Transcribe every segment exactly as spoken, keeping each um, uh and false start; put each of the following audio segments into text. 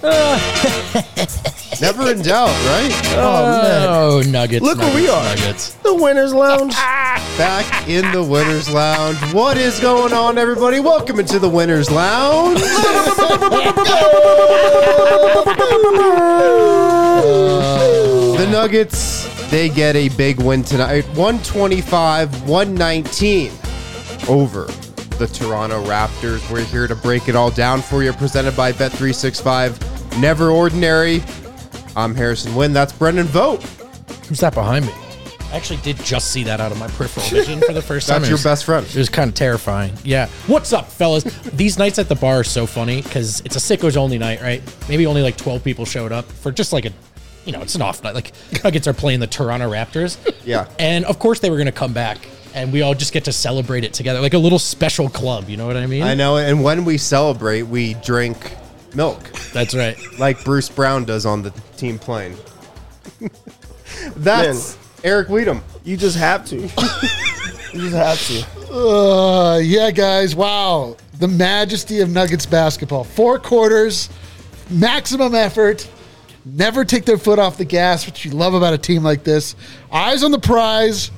Never in doubt, right? Oh, man. Oh, Nuggets. Look nuggets, where we are. Nuggets. The Winners Lounge. Back in the Winners Lounge. What is going on, everybody? Welcome into the Winners Lounge. The Nuggets, they get a big win tonight. one twenty-five one nineteen over the Toronto Raptors. We're here to break it all down for you, presented by Bet three sixty-five. Never ordinary. I'm Harrison Wynn. That's Brendan Vogt. Who's that behind me? I actually did just see that out of my peripheral vision for the first time. That's your best friend. It was kind of terrifying. Yeah. What's up, fellas? These nights at the bar are so funny because it's a sickos only night, right? Maybe only like twelve people showed up for just like a, you know, it's an off night. Like Nuggets are playing the Toronto Raptors. Yeah. And of course they were going to come back and we all just get to celebrate it together. Like a little special club. You know what I mean? I know. And when we celebrate, we drink milk. That's right. Like Bruce Brown does on the team plane. That's Man. Eric Weedham. You just have to. You just have to. Uh, yeah, guys. Wow. The majesty of Nuggets basketball. Four quarters, maximum effort, never take their foot off the gas, which you love about a team like this. Eyes on the prize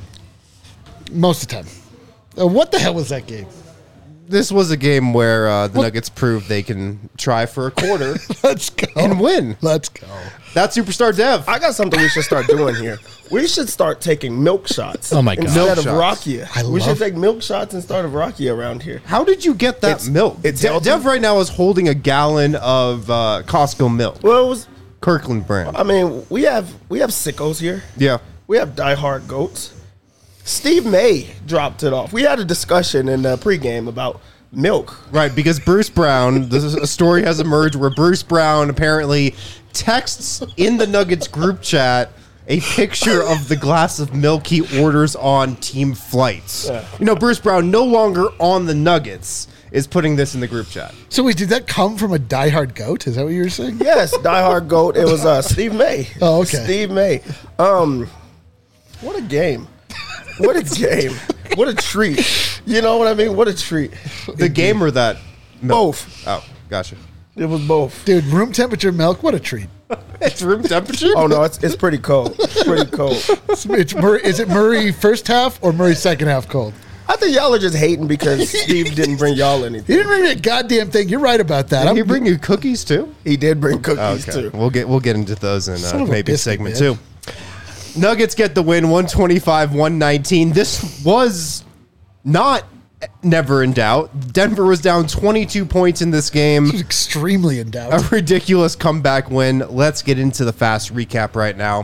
most of the time. Uh, what the hell was that game? This was a game where uh, the what? Nuggets proved they can try for a quarter Let's go. and win. Let's go. That's Superstar Dev. I got something we should start doing here. We should start taking milk shots. Oh, my God. Instead Milk of shots. Rakia. I We love should take milk shots instead of Rakia around here. How did you get that It's- milk? it's De- healthy. Dev right now is holding a gallon of uh, Costco milk. Well, it was, Kirkland brand. I mean, we have we have sickos here. Yeah. We have diehard goats. Steve May dropped it off. We had a discussion in the pregame about milk. Right, because Bruce Brown, this is a story has emerged where Bruce Brown apparently texts in the Nuggets group chat a picture of the glass of milk he orders on team flights. Yeah. You know, Bruce Brown, no longer on the Nuggets, is putting this in the group chat. So wait, did that come from a diehard goat? Is that what you were saying? Yes, diehard goat. It was uh, Steve May. Oh, okay. Steve May. Um, what a game. What a game. What a treat. You know what I mean? What a treat. The game or that milk? Both. Oh, gotcha. It was both. Dude, room temperature milk, what a treat. It's room temperature? Oh, no, it's it's pretty cold. It's pretty cold. It's, it's Murray, is it Murray first half or Murray second half cold? I think y'all are just hating because Steve didn't bring y'all He anything. didn't bring me a goddamn thing. You're right about that. Did I'm, he bring you cookies too? He did bring cookies, Okay, too. we'll get we'll get into those in Son uh, of a maybe biscuit, segment man. two. Nuggets get the win, one twenty-five one nineteen. This was not never in doubt. Denver was down twenty-two points in this game. He was extremely in doubt. A ridiculous comeback win. Let's get into the fast recap right now.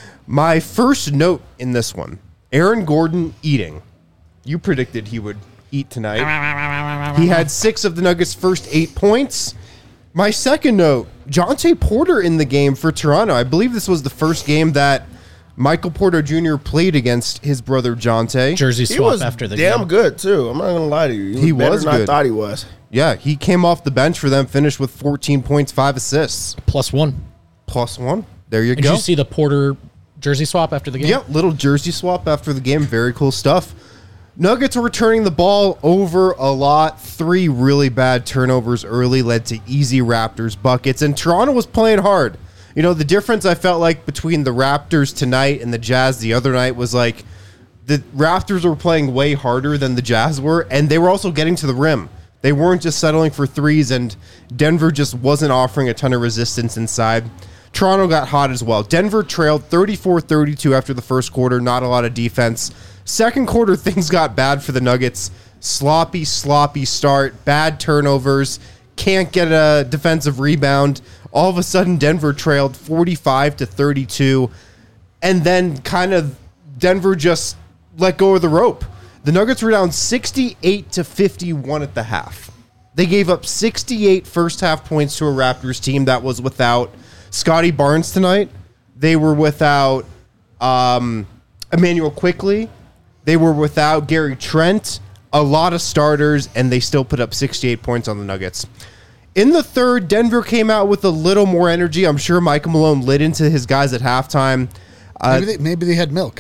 My first note in this one, Aaron Gordon eating. You predicted he would eat tonight. He had six of the Nuggets' first eight points. My second note, Jonte Porter in the game for Toronto. I believe this was the first game that Michael Porter Junior played against his brother Jonte. Jersey He swap was after the damn game. good, too. I'm not going to lie to you. He, He was, better was than I good. thought he was. Yeah, he came off the bench for them, finished with fourteen points, five assists, Plus one. plus one. There you Did go. you see the Porter jersey swap after the game? Yep, little jersey swap after the game. Very cool stuff. Nuggets were turning the ball over a lot. Three really bad turnovers early led to easy Raptors buckets, and Toronto was playing hard. You know, the difference I felt like between the Raptors tonight and the Jazz the other night was like the Raptors were playing way harder than the Jazz were, and they were also getting to the rim. They weren't just settling for threes, and Denver just wasn't offering a ton of resistance inside. Toronto got hot as well. Denver trailed thirty-four thirty-two after the first quarter. Not a lot of defense. Second quarter, things got bad for the Nuggets. Sloppy, sloppy start. Bad turnovers. Can't get a defensive rebound. All of a sudden, Denver trailed forty-five to thirty-two. And then kind of Denver just let go of the rope. The Nuggets were down sixty-eight to fifty-one at the half. They gave up sixty-eight first half points to a Raptors team that was without Scotty Barnes tonight. They were without um, Emmanuel Quickley. They were without Gary Trent. A lot of starters, and they still put up sixty-eight points on the Nuggets. In the third, Denver came out with a little more energy. I'm sure Michael Malone lit into his guys at halftime. Uh, Maybe they, maybe they had milk.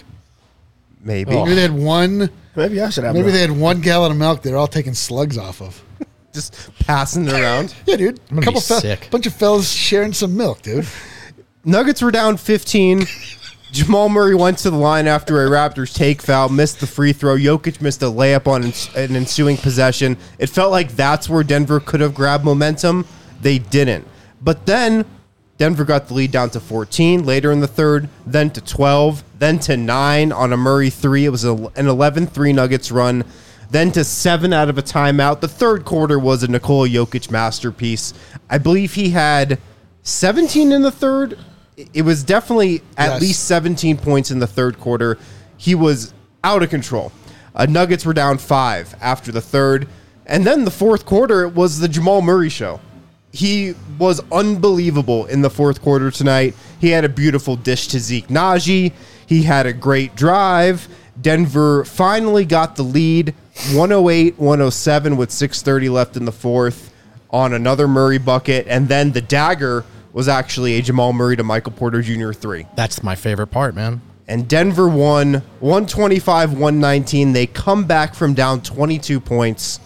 maybe. Maybe they had one. Maybe I should have Maybe milk. they had one gallon of milk. They're all taking slugs off of. just passing it around. Yeah, dude. gonna A couple be fe- sick. bunch of fellas sharing some milk, dude. Nuggets were down fifteen. Jamal Murray went to the line after a Raptors take foul, missed the free throw. Jokic missed a layup on an ensuing possession. It felt like that's where Denver could have grabbed momentum. They didn't. But then Denver got the lead down to fourteen later in the third, then to twelve, then to nine on a Murray three. It was a, an eleven three Nuggets run, then to seven out of a timeout. The third quarter was a Nikola Jokic masterpiece. I believe he had seventeen in the third. It was definitely at Yes. least seventeen points in the third quarter. He was out of control. Uh, Nuggets were down five after the third. And then the fourth quarter, it was the Jamal Murray show. He was unbelievable in the fourth quarter tonight. He had a beautiful dish to Zeke Naji. He had a great drive. Denver finally got the lead, one oh eight one oh seven with six thirty left in the fourth on another Murray bucket. And then the dagger was actually a Jamal Murray to Michael Porter Junior three. That's my favorite part, man. And Denver won one twenty-five one nineteen. They come back from down twenty-two points.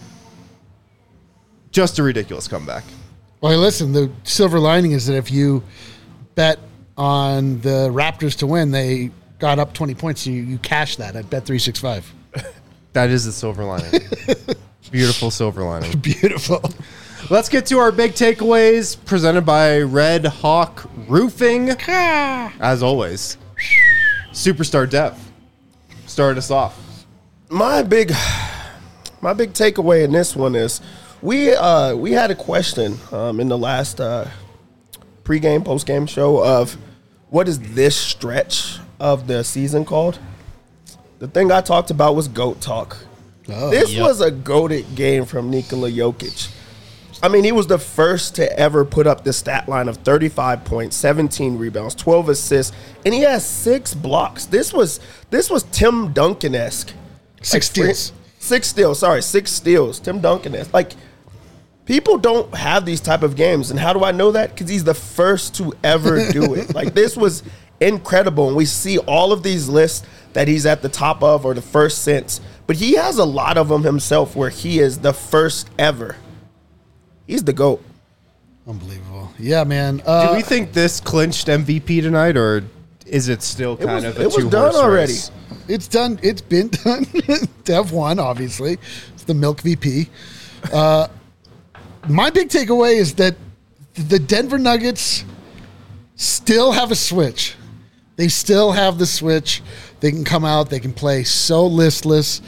Just a ridiculous comeback. Well, listen, the silver lining is that if you bet on the Raptors to win, they got up twenty points. So you, you cash that at Bet three sixty-five. That is the silver lining. Beautiful silver lining. Beautiful. Let's get to our big takeaways presented by Red Hawk Roofing. As always, Superstar Dev, start us off. My big, my big takeaway in this one is we uh, we had a question um, in the last uh, pregame, postgame show of what is this stretch of the season called? The thing I talked about was GOAT talk. Oh, this yep. was a GOATed game from Nikola Jokic. I mean, he was the first to ever put up the stat line of thirty-five points, seventeen rebounds, twelve assists, and he has six blocks. This was this was Tim Duncan-esque. Six Like, steals. Six steals, sorry, six steals. Tim Duncan-esque. Like, people don't have these type of games. And how do I know that? Because he's the first to ever do it. Like, this was incredible. And we see all of these lists that he's at the top of or the first since. But he has a lot of them himself where he is the first ever. He's the GOAT. Unbelievable. Yeah, man. Uh, Do we think this clinched M V P tonight, or is it still kind was- of a it was two done horse already. race? It's done. It's been done. Dev won, obviously. It's the Milk V P. Uh, my big takeaway is that the Denver Nuggets still have a switch. They still have the switch. They can come out. They can play so listless,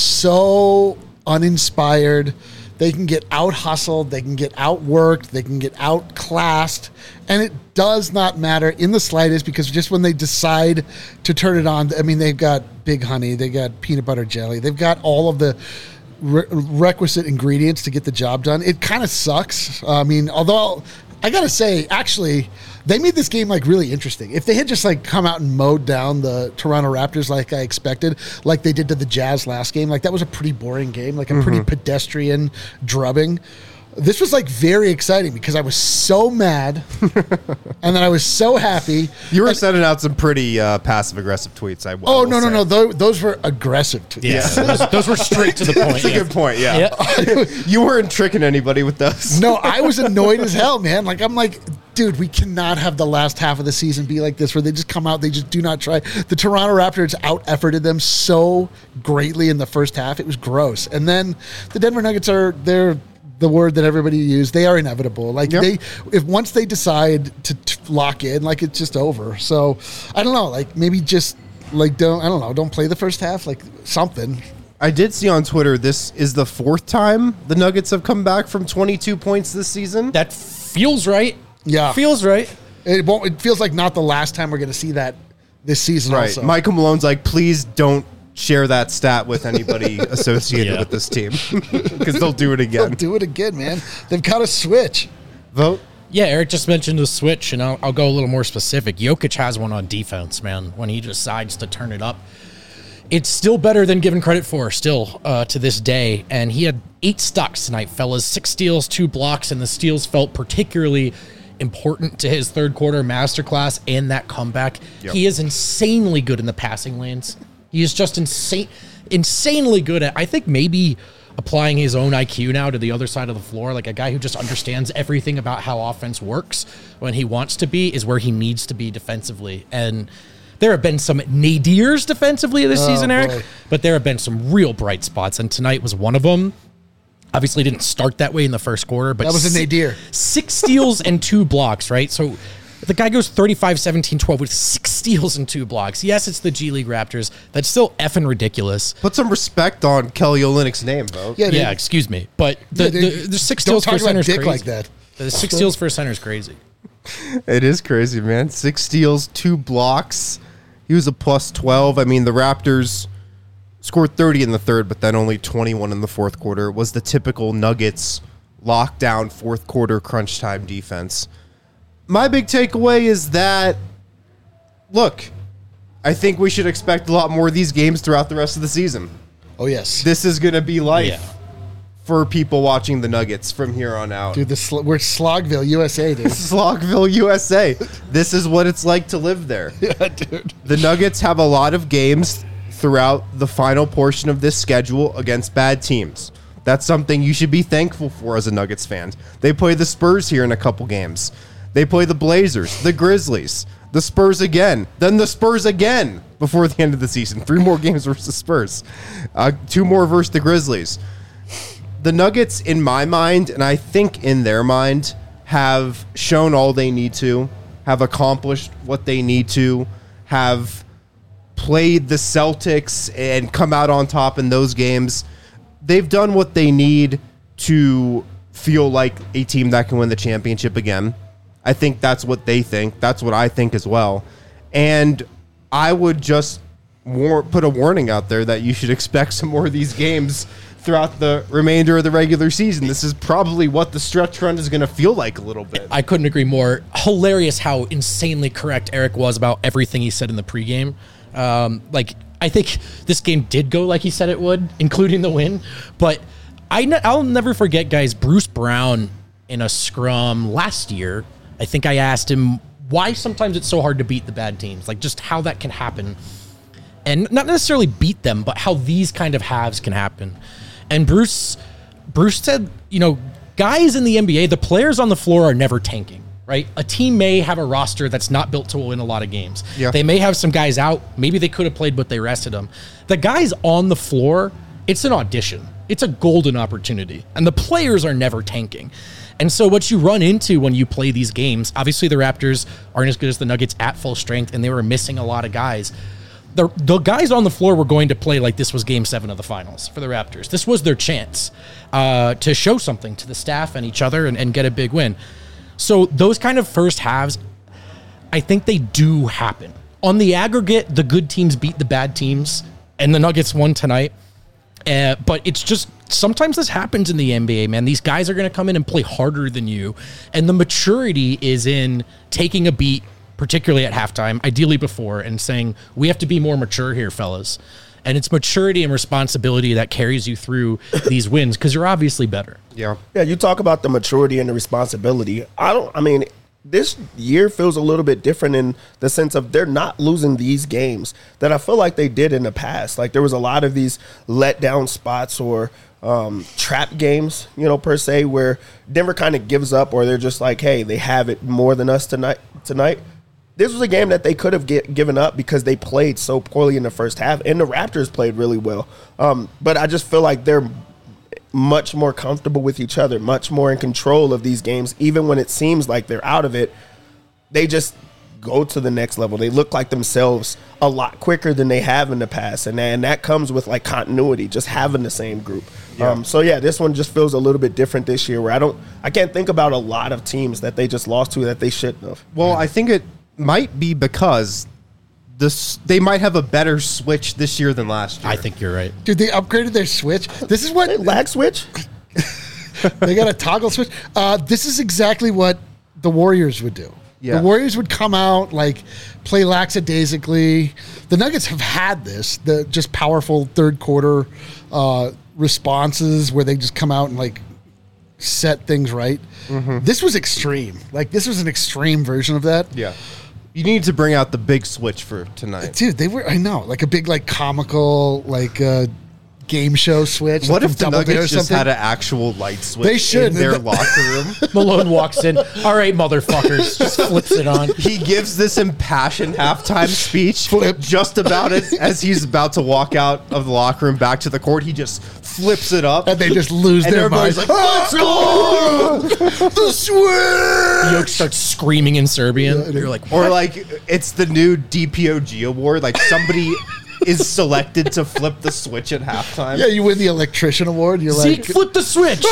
so uninspired. They can get out hustled. They can get outworked. They can get outclassed. And it does not matter in the slightest because just when they decide to turn it on, I mean, they've got Big Honey. They got peanut butter jelly. They've got all of the re- requisite ingredients to get the job done. It kind of sucks. I mean, although I got to say, actually, they made this game like really interesting. If they had just like come out and mowed down the Toronto Raptors like I expected, like they did to the Jazz last game, like that was a pretty boring game, like a mm-hmm. pretty pedestrian drubbing. This was like very exciting because I was so mad and then I was so happy. You were and, sending out some pretty uh, passive aggressive tweets. I, I oh, will no, no, say. no. Those, those were aggressive tweets. Yeah, those, those were straight to the point. That's a yeah. good point, yeah. Yeah. You weren't tricking anybody with those. No, I was annoyed as hell, man. Like, I'm like, dude, we cannot have the last half of the season be like this where they just come out, they just do not try. The Toronto Raptors out-efforted them so greatly in the first half. It was gross. And then the Denver Nuggets are, they're the word that everybody used. They are inevitable. Like, yep. they, if once they decide to, to lock in, like, it's just over. So, I don't know. Like, maybe just, like, don't, I don't know, don't play the first half. Like, something. I did see on Twitter this is the fourth time the Nuggets have come back from twenty-two points this season. That feels right. Yeah. Feels right. It won't, it feels like not the last time we're going to see that this season Right. also. Michael Malone's like, please don't share that stat with anybody associated Yeah. with this team because they'll do it They'll again. do it again, man. They've got to switch. Vote. Yeah, Eric just mentioned the switch, and I'll, I'll go a little more specific. Jokic has one on defense, man, when he decides to turn it up. It's still better than given credit for, still, uh, to this day. And he had eight stocks tonight, fellas. Six steals, two blocks, and the steals felt particularly important to his third quarter masterclass and that comeback. Yep. He is insanely good in the passing lanes. He is just insane, insanely good at, I think maybe applying his own I Q now to the other side of the floor, like a guy who just understands everything about how offense works when he wants to be is where he needs to be defensively. And there have been some nadirs defensively this Oh, season, Eric, boy. but there have been some real bright spots, and tonight was one of them. Obviously didn't start that way in the first quarter, but That was a si- nadir. Six steals and two blocks, right? So the guy goes thirty-five, seventeen, twelve with six steals and two blocks. Yes, it's the G League Raptors. That's still effing ridiculous. Put some respect on Kelly Olynyk's name, bro. Yeah, Yeah, they- excuse me. But the, yeah, they- the, the six don't steals for talk a center about is dick crazy. like that. The six steals for a center is crazy. It is crazy, man. Six steals, two blocks. He was a plus twelve. I mean, the Raptors scored thirty in the third, but then only twenty-one in the fourth quarter. It was the typical Nuggets lockdown fourth quarter crunch time defense. My big takeaway is that, look, I think we should expect a lot more of these games throughout the rest of the season. Oh, yes. This is going to be life Yeah. for people watching the Nuggets from here on out. Dude, the sl- we're Slogville, U S A, dude. Slogville, U S A. This is what it's like to live there. Yeah, dude. The Nuggets have a lot of games throughout the final portion of this schedule against bad teams. That's something you should be thankful for as a Nuggets fan. They play the Spurs here in a couple games. They play the Blazers, the Grizzlies, the Spurs again, then the Spurs again before the end of the season. Three more games versus the Spurs. Uh, two more versus the Grizzlies. The Nuggets, in my mind, and I think in their mind, have shown all they need to, have accomplished what they need to, have played the Celtics and come out on top in those games. They've done what they need to feel like a team that can win the championship again. I think that's what they think. That's what I think as well. And I would just war- put a warning out there that you should expect some more of these games throughout the remainder of the regular season. This is probably what the stretch run is going to feel like a little bit. I couldn't agree more. Hilarious how insanely correct Eric was about everything he said in the pregame. Um, like, I think this game did go like he said it would, including the win. But I ne- I'll never forget, guys, Bruce Brown in a scrum last year. I think I asked him why sometimes it's so hard to beat the bad teams, like just how that can happen. And not necessarily beat them, but how these kind of halves can happen. And Bruce Bruce said, you know, guys in the N B A, the players on the floor are never tanking, right? A team may have a roster that's not built to win a lot of games. Yeah. They may have some guys out. Maybe they could have played, but they rested them. The guys on the floor, it's an audition. It's a golden opportunity. And the players are never tanking. And so what you run into when you play these games, obviously the Raptors aren't as good as the Nuggets at full strength, and they were missing a lot of guys. The, the guys on the floor were going to play like this was game seven of the finals for the Raptors. This was their chance uh, to show something to the staff and each other and, and get a big win. So those kind of first halves, I think they do happen. On the aggregate, the good teams beat the bad teams, and the Nuggets won tonight. Uh, but it's just, sometimes this happens in the N B A, man. These guys are going to come in and play harder than you. And the maturity is in taking a beat, particularly at halftime, ideally before, and saying, we have to be more mature here, fellas. And it's maturity and responsibility that carries you through these wins, because you're obviously better. Yeah. Yeah, you talk about the maturity and the responsibility. I don't, I mean, this year feels a little bit different in the sense of they're not losing these games that I feel like they did in the past. Like there was a lot of these letdown spots or um, trap games, you know, per se, where Denver kind of gives up or they're just like, hey, they have it more than us tonight. Tonight, this was a game that they could have get, given up because they played so poorly in the first half, and the Raptors played really well. Um, but I just feel like they're much more comfortable with each other, much more in control of these games, even when it seems like they're out of it. They just go to the next level. They look like themselves a lot quicker than they have in the past, and, and that comes with like continuity, just having the same group. Yeah. Um, so yeah, this one just feels a little bit different this year, where I don't, I can't think about a lot of teams that they just lost to that they shouldn't have. Well, I think it might be because this they might have a better switch this year than last year. I think you're right. Dude, they upgraded their switch. This is what Lag switch? they got a toggle switch. Uh, this is exactly what the Warriors would do. Yeah. The Warriors would come out, like, play lackadaisically. The Nuggets have had this, the just powerful third quarter uh, responses where they just come out and, like, set things right. Mm-hmm. This was extreme. Like, this was an extreme version of that. Yeah. You need to bring out the big switch for tonight. Dude, they were, I know, like a big, like, comical, like, uh, game show switch. What like if the from Double Dare or Nuggets just something. had an actual light switch They should. in their locker room? Malone walks in. All right, motherfuckers. Just flips it on. He gives this impassioned halftime speech Flip. just about as, as he's about to walk out of the locker room back to the court. He just flips it up. And they just lose And their everybody's minds. like, let's go! The switch! Yoke starts screaming in Serbian. You're like, Or like, it's the new D P O G award. Like, somebody is selected to flip the switch at halftime. Yeah, you win the electrician award. You're Zeke, like, flip the switch.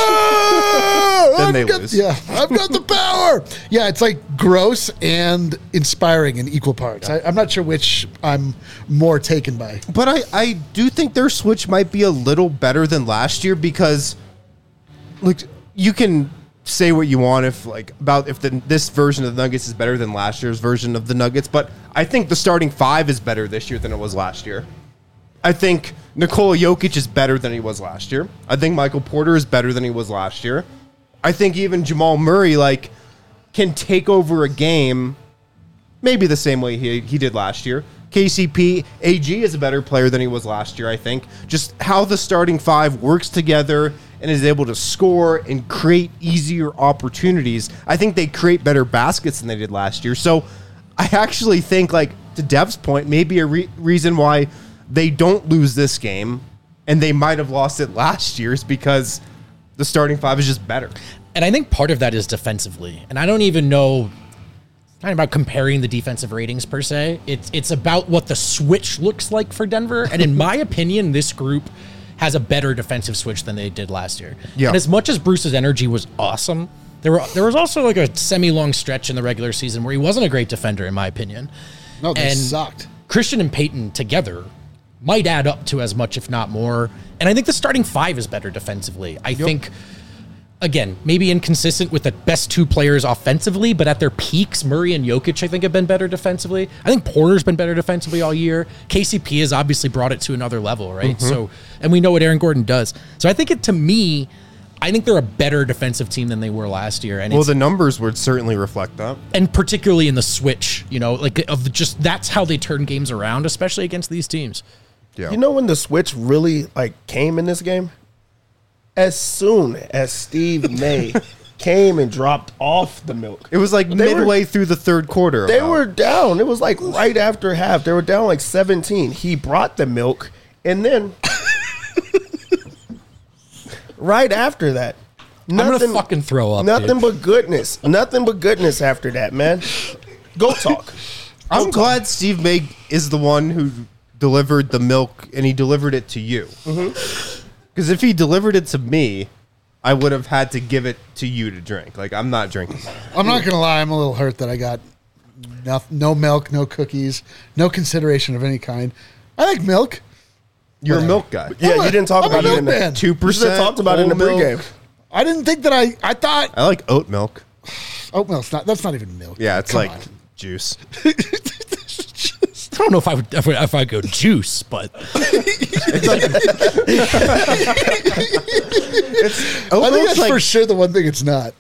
"Ah, Then I've they got- lose. Yeah, I've got the power. Yeah, it's like gross and inspiring in equal parts. I, I'm not sure which I'm more taken by. But I, I do think their switch might be a little better than last year because, like, you can say what you want if like about if the, this version of the Nuggets is better than last year's version of the Nuggets, but I think the starting five is better this year than it was last year. I think Nikola Jokic is better than he was last year. I think Michael Porter is better than he was last year. I think even Jamal Murray like can take over a game maybe the same way he, he did last year. K C P, A G is a better player than he was last year, I think. Just how the starting five works together and is able to score and create easier opportunities. I think they create better baskets than they did last year. So I actually think, like, to Dev's point, maybe a re- reason why they don't lose this game and they might have lost it last year is because the starting five is just better. And I think part of that is defensively. And I don't even know, it's not about comparing the defensive ratings per se. It's it's about what the switch looks like for Denver. And in my opinion, this group has a better defensive switch than they did last year. Yeah. And as much as Bruce's energy was awesome, there were there was also like a semi-long stretch in the regular season where he wasn't a great defender, in my opinion. No, they And sucked. Christian and Peyton together might add up to as much, if not more. And I think the starting five is better defensively. I think, again, maybe inconsistent with the best two players offensively, but at their peaks, Murray and Jokic, I think, have been better defensively. I think Porter's been better defensively all year. K C P has obviously brought it to another level, right? Mm-hmm. So, and we know what Aaron Gordon does. So I think it, to me, I think they're a better defensive team than they were last year. And Well, it's, the numbers would certainly reflect that. and particularly in the switch, you know, like of the, just that's how they turn games around, especially against these teams. Yeah. You know when the switch really like came in this game? As soon as Steve May came and dropped off the milk. It was like They were- midway through the third quarter. They about. were down. It was like right after half. They were down like seventeen. He brought the milk, and then right after that, I'm gonna fucking throw up. Nothing dude. but goodness. Nothing but goodness after that, man. Go talk. I'm glad Steve May is the one who delivered the milk, and he delivered it to you. Because if he delivered it to me, I would have had to give it to you to drink. Like, I'm not drinking that. I'm not going to lie. I'm a little hurt that I got no, no milk, no cookies, no consideration of any kind. I like milk. You're Whatever. a milk guy. Yeah, I'm a- you didn't talk I'm a about it in the milkman. Two You should percent. have talked about it in the pregame. I didn't think that I, I thought I like oat milk. oat milk's not, that's not even milk. Yeah, it's Come like on. juice. I don't know if I would if I, if I go juice, but Oat I think milk's that's like, for sure the one thing it's not.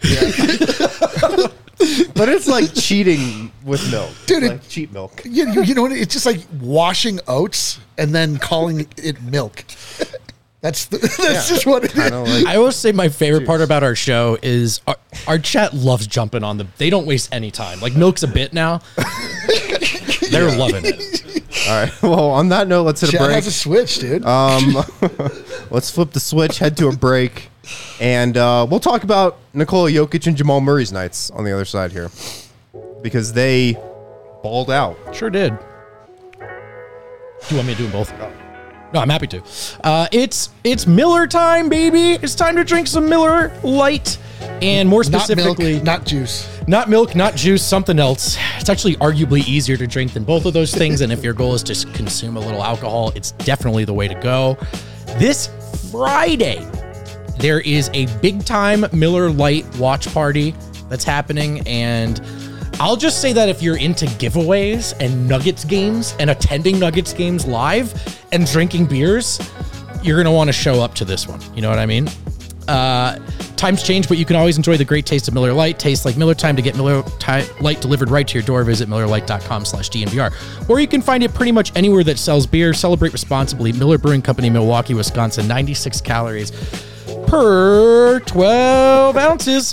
but it's like cheating with milk, Dude, it- Like cheap milk. You, you, you know what? It's just like washing oats and then calling it milk. That's the, that's just what it is. I don't like. I always say my favorite part about our show is our, our chat loves jumping on the. They don't waste any time. Like milk's a bit now. They're loving it. All right. Well, on that note, let's hit a Chat break. has a switch, dude. Um, let's flip the switch, head to a break, and uh, we'll talk about Nikola Jokic and Jamal Murray's nights on the other side here because they balled out. Sure did. Do you want me to do them both? No, I'm happy to. Uh, it's it's Miller time, baby. It's time to drink some Miller Lite, and more not specifically, milk, not juice. Not milk, not juice, something else. It's actually arguably easier to drink than both of those things. And if your goal is to consume a little alcohol, it's definitely the way to go. This Friday, there is a big time Miller Lite watch party that's happening. And I'll just say that if you're into giveaways and Nuggets games and attending Nuggets games live and drinking beers, you're going to want to show up to this one. You know what I mean? Uh, Times change, but you can always enjoy the great taste of Miller Lite. Tastes like Miller time. To get Miller Lite delivered right to your door, visit miller lite dot com slash D N V R. Or you can find it pretty much anywhere that sells beer. Celebrate responsibly. Miller Brewing Company, Milwaukee, Wisconsin. ninety-six calories per twelve ounces.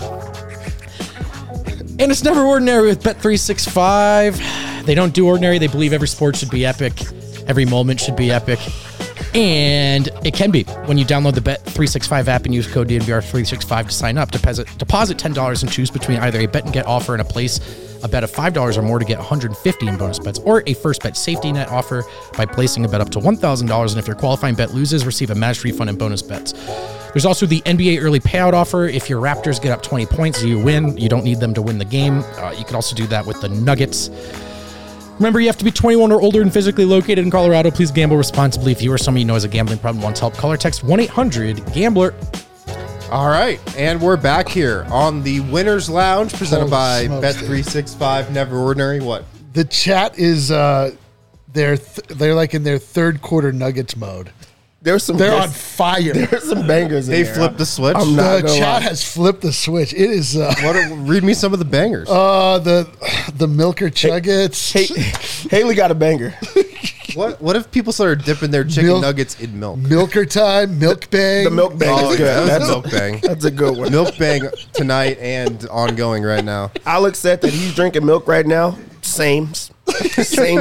And it's never ordinary with Bet three sixty-five. They don't do ordinary. They believe every sport should be epic. Every moment should be epic. And it can be when you download the Bet three sixty-five app and use code D N V R three sixty-five to sign up. Deposit, deposit ten dollars and choose between either a bet and get offer and a place a bet of five dollars or more to get one hundred fifty in bonus bets, or a first bet safety net offer by placing a bet up to one thousand dollars. And if your qualifying bet loses, receive a match refund and bonus bets. There's also the N B A early payout offer. If your Raptors get up twenty points, you win. You don't need them to win the game. Uh, you can also do that with the Nuggets. Remember, you have to be twenty-one or older and physically located in Colorado. Please gamble responsibly. If you or someone you know has a gambling problem and wants help, call or text one eight hundred gambler. All right, and we're back here on the Winners Lounge, presented Holy by smokes, Bet dude. three sixty-five. Never ordinary. What? The chat is uh, they're th- they're like in their third quarter Nuggets mode. There's some. They're on there's, fire. there's some bangers. They in there. flipped the switch. I'm not The gonna chat lie. has flipped the switch. It is uh, What? Are, read me some of the bangers. uh the the Milker Chuggets. Hey, Haley got a banger. what? What if people started dipping their chicken Milk- nuggets in milk? Milker time, milk bang. The milk bang Oh, is yeah, good. that That's was milk bang. That's a good one. Milk bang tonight and ongoing right now. Alex said that he's drinking milk right now. Same, same.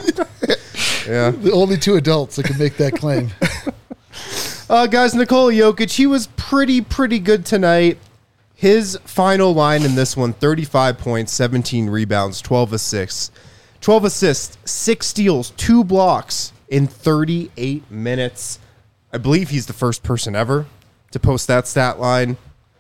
Yeah. The only two adults that can make that claim. Uh, guys, Nikola Jokic, he was pretty, pretty good tonight. His final line in this one, thirty-five points, seventeen rebounds, twelve assists. twelve assists, six steals, two blocks in thirty-eight minutes. I believe he's the first person ever to post that stat line.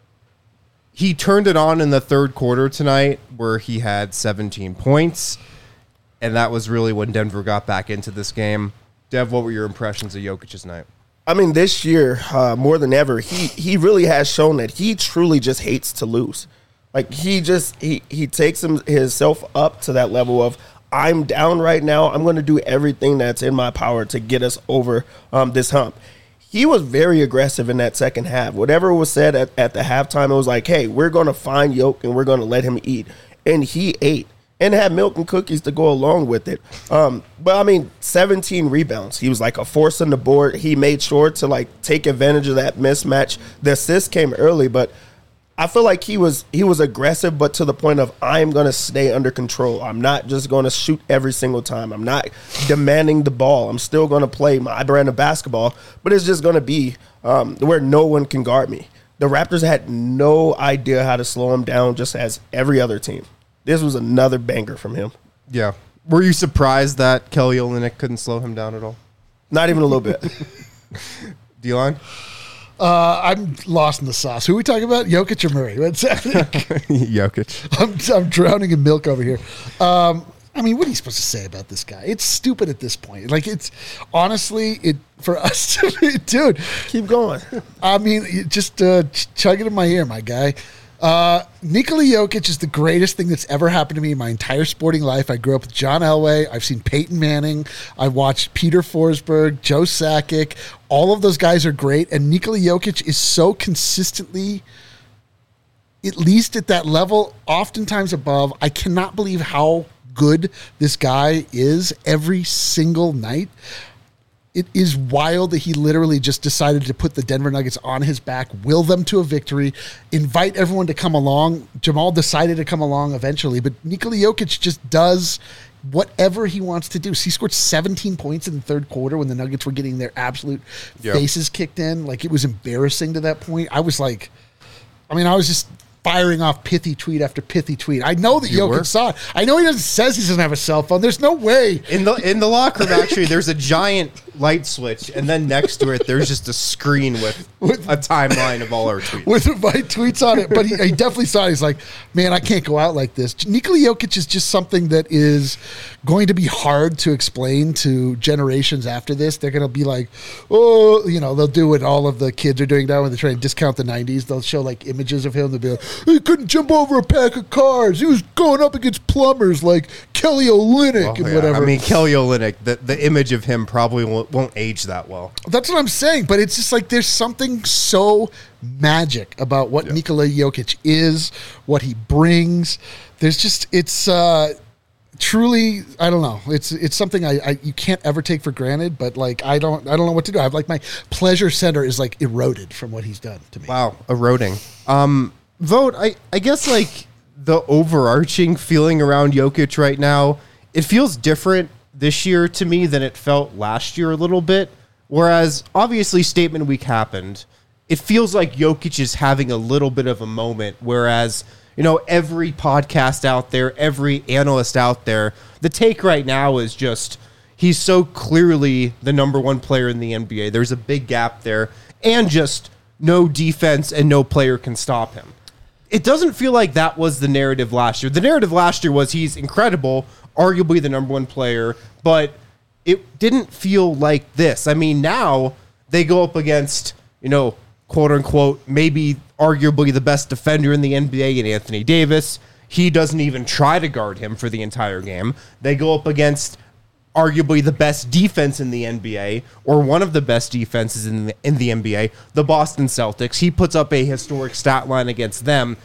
He turned it on in the third quarter tonight where he had seventeen points, and that was really when Denver got back into this game. Dev, what were your impressions of Jokic's night? I mean, this year, uh, more than ever, he he really has shown that he truly just hates to lose. Like, he just, he, he takes him, himself up to that level of, I'm down right now. I'm going to do everything that's in my power to get us over um, this hump. He was very aggressive in that second half. Whatever was said at, at the halftime, it was like, hey, we're going to find Yoke and we're going to let him eat. And he ate. And had milk and cookies to go along with it. Um, but, I mean, seventeen rebounds. He was like a force on the board. He made sure to, like, take advantage of that mismatch. The assist came early, but I feel like he was he was aggressive, but to the point of, I'm going to stay under control. I'm not just going to shoot every single time. I'm not demanding the ball. I'm still going to play my brand of basketball, but it's just going to be um, where no one can guard me. The Raptors had no idea how to slow him down, just as every other team. This was another banger from him. Yeah. Were you surprised that Kelly Olynyk couldn't slow him down at all? Not even a little bit. D-line? Uh, I'm lost in the sauce. Who are we talking about? Jokic or Murray? What's happening? Jokic. I'm, I'm drowning in milk over here. Um, I mean, what are you supposed to say about this guy? It's stupid at this point. Like, it's honestly, it for us to be, dude. Keep going. I mean, you just uh, ch- chug it in my ear, my guy. Uh, Nikola Jokic is the greatest thing that's ever happened to me in my entire sporting life. I grew up with John Elway. I've seen Peyton Manning. I watched Peter Forsberg, Joe Sakic. All of those guys are great. And Nikola Jokic is so consistently, at least at that level, oftentimes above. I cannot believe how good this guy is every single night. It is wild that he literally just decided to put the Denver Nuggets on his back, will them to a victory, invite everyone to come along. Jamal decided to come along eventually, but Nikola Jokic just does whatever he wants to do. So he scored seventeen points in the third quarter when the Nuggets were getting their absolute Yep. faces kicked in. Like, it was embarrassing to that point. I was like, I mean, I was just firing off pithy tweet after pithy tweet. I know that You Jokic were? saw it. I know he doesn't says he doesn't have a cell phone. There's no way. In the in the locker room, actually, there's a giant light switch, and then next to it, there's just a screen with, With- a timeline of all our tweets. with my tweets on it, but he, he definitely saw it. He's like, man, I can't go out like this. Nikola Jokic is just something that is going to be hard to explain to generations after this. They're going to be like, oh, you know, they'll do what all of the kids are doing now when they're trying to discount the nineties. They'll show like images of him. They'll be like, he couldn't jump over a pack of cars. He was going up against plumbers like Kelly Olynyk Oh, and yeah. whatever. I mean, Kelly Olynyk, the, the image of him probably will, it won't age that well. That's what I'm saying. But it's just like there's something so magic about what Yeah. Nikola Jokic is, what he brings. There's just it's uh, truly I don't know. It's it's something I, I you can't ever take for granted. But like I don't I don't know what to do. I have like my pleasure center is like eroded from what he's done to me. Wow, eroding. Um, vote. I I guess like the overarching feeling around Jokic right now, it feels different this year to me than it felt last year a little bit. Whereas obviously statement week happened, it feels like Jokic is having a little bit of a moment. Whereas, you know, every podcast out there, every analyst out there, the take right now is just he's so clearly the number one player in the N B A. There's a big gap there, and just no defense and no player can stop him. It doesn't feel like that was the narrative last year. The narrative last year was he's incredible, arguably the number one player, but it didn't feel like this. I mean, now they go up against, you know, quote unquote, maybe arguably the best defender in the N B A in Anthony Davis. He doesn't even try to guard him for the entire game. They go up against arguably the best defense in the N B A, or one of the best defenses in the, in the N B A, the Boston Celtics. He puts up a historic stat line against them.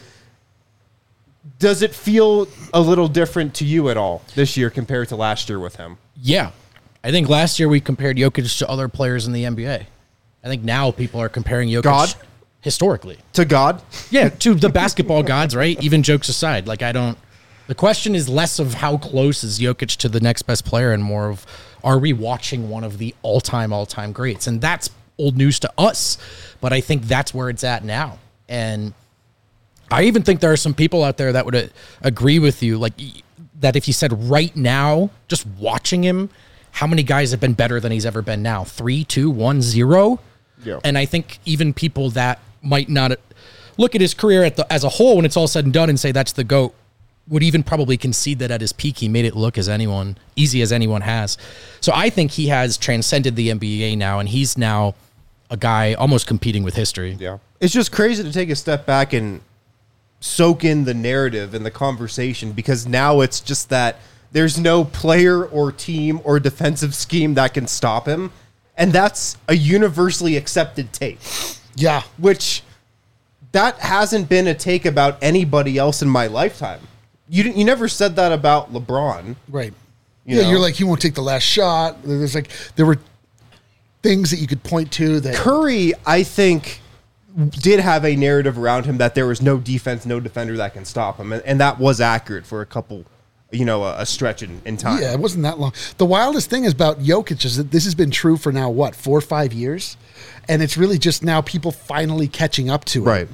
Does it feel a little different to you at all this year compared to last year with him? Yeah. I think last year we compared Jokic to other players in the N B A. I think now people are comparing Jokic God? historically. To God? Yeah, to the basketball gods, right? Even jokes aside. Like, I don't... The question is less of how close is Jokic to the next best player and more of, are we watching one of the all-time, all-time greats? And that's old news to us, but I think that's where it's at now. And I even think there are some people out there that would uh, agree with you, like, that if you said right now, just watching him, how many guys have been better than he's ever been now? Three, two, one, zero? Yeah. And I think even people that might not look at his career at the, as a whole when it's all said and done and say that's the GOAT would even probably concede that at his peak he made it look as anyone easy as anyone has. So I think he has transcended the N B A now, and he's now a guy almost competing with history. Yeah. It's just crazy to take a step back and soak in the narrative and the conversation, because now it's just that there's no player or team or defensive scheme that can stop him. And that's a universally accepted take, Yeah. which that hasn't been a take about anybody else in my lifetime. You didn't, you never said that about LeBron. Right. You yeah, know? you're like, he won't take the last shot. There's like, there were things that you could point to that. Curry, I think, did have a narrative around him that there was no defense, no defender that can stop him. And, and that was accurate for a couple, you know, a, a stretch in, in time. Yeah, it wasn't that long. The wildest thing is about Jokic is that this has been true for now, what, four or five years? And it's really just now people finally catching up to it. Right.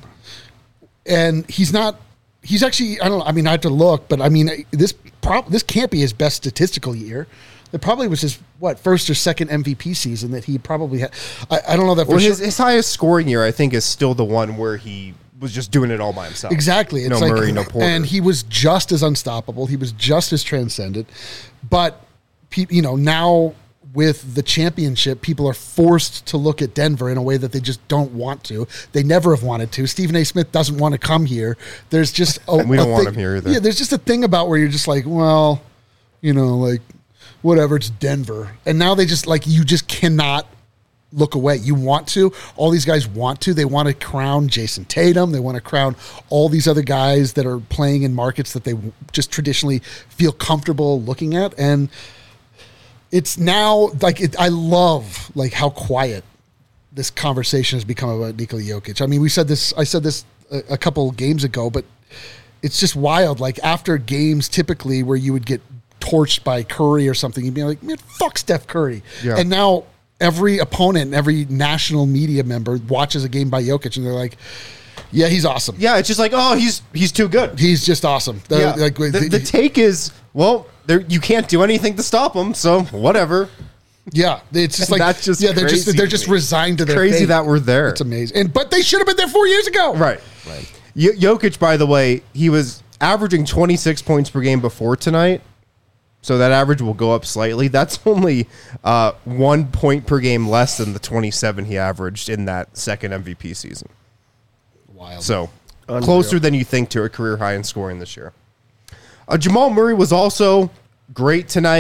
And he's not, he's actually, I don't know, I mean, I have to look, but I mean, this prob- this can't be his best statistical year. It probably was his, what, first or second M V P season that he probably had. I, I don't know that for Well, sure. his, his highest scoring year, I think, is still the one where he was just doing it all by himself. Exactly. It's no like, Murray, no Porter. And he was just as unstoppable. He was just as transcendent. But, pe- you know, now with the championship, people are forced to look at Denver in a way that they just don't want to. They never have wanted to. Stephen A. Smith doesn't want to come here. There's just a, We don't a want thing- him here either. Yeah, there's just a thing about where you're just like, well, you know, like, whatever, it's Denver. And now they just, like, you just cannot look away. You want to. All these guys want to. They want to crown Jason Tatum. They want to crown all these other guys that are playing in markets that they just traditionally feel comfortable looking at. And it's now, like, it, I love, like, how quiet this conversation has become about Nikola Jokic. I mean, we said this, I said this a, a couple games ago, but it's just wild. Like, after games typically where you would get torched by Curry or something, you'd be like, man, fuck Steph Curry. Yeah. And now every opponent and every national media member watches a game by Jokic and they're like, yeah, he's awesome. yeah, it's just like, oh, he's he's too good. He's just awesome. The, Yeah. like, the, the- the take is, well, there you can't do anything to stop him, so whatever. yeah, it's just And like, that's just yeah, they're just, crazy they're to just me. resigned to their Crazy fate. that we're there. It's amazing. And, but they should have been there four years ago. Right. Right. Y- Jokic, by the way, he was averaging twenty-six points per game before tonight. So that average will go up slightly. That's only uh, one point per game less than the twenty-seven he averaged in that second M V P season. Wild. So Unreal. closer than you think to a career high in scoring this year. Uh, Jamal Murray was also great tonight.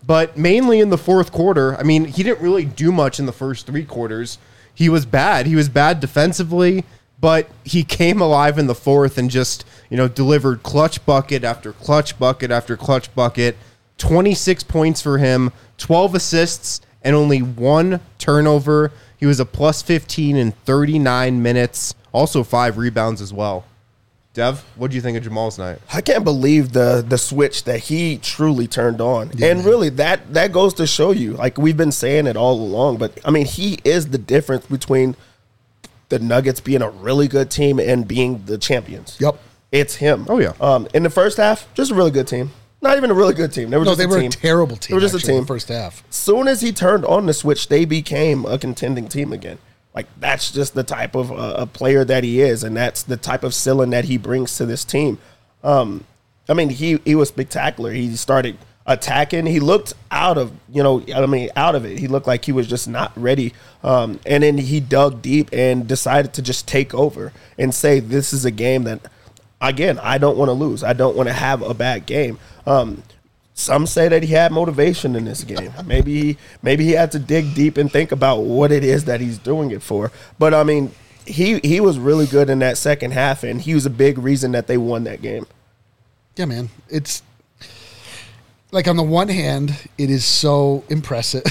but mainly in the fourth quarter. I mean, he didn't really do much in the first three quarters. He was bad. He was bad defensively, but he came alive in the fourth and just, you know, delivered clutch bucket after clutch bucket after clutch bucket. twenty-six points for him, twelve assists, and only one turnover. He was a plus fifteen in thirty-nine minutes, also five rebounds as well. Dev, what do you think of Jamal's night? I can't believe the the switch that he truly turned on. Yeah, and man. really, that that goes to show you, like we've been saying it all along, but I mean, he is the difference between the Nuggets being a really good team and being the champions. Yep. It's him. Oh, yeah. Um, in the first half, just a really good team. Not even a really good team. They were No, just they a were team. a terrible team. They were just actually, a in team. the first half. Soon as he turned on the switch, they became a contending team again. Like, that's just the type of uh, a player that he is, and that's the type of ceiling that he brings to this team. Um, I mean, he he was spectacular. He started attacking. He looked out of, you know, I mean, out of it. He looked like he was just not ready. Um, and then he dug deep and decided to just take over and say, this is a game that, again, I don't want to lose. I don't want to have a bad game. Um, some say that he had motivation in this game. Maybe he, maybe he had to dig deep and think about what it is that he's doing it for. But, I mean, he, he was really good in that second half, and he was a big reason that they won that game. Yeah, man. It's like, on the one hand, it is so impressive.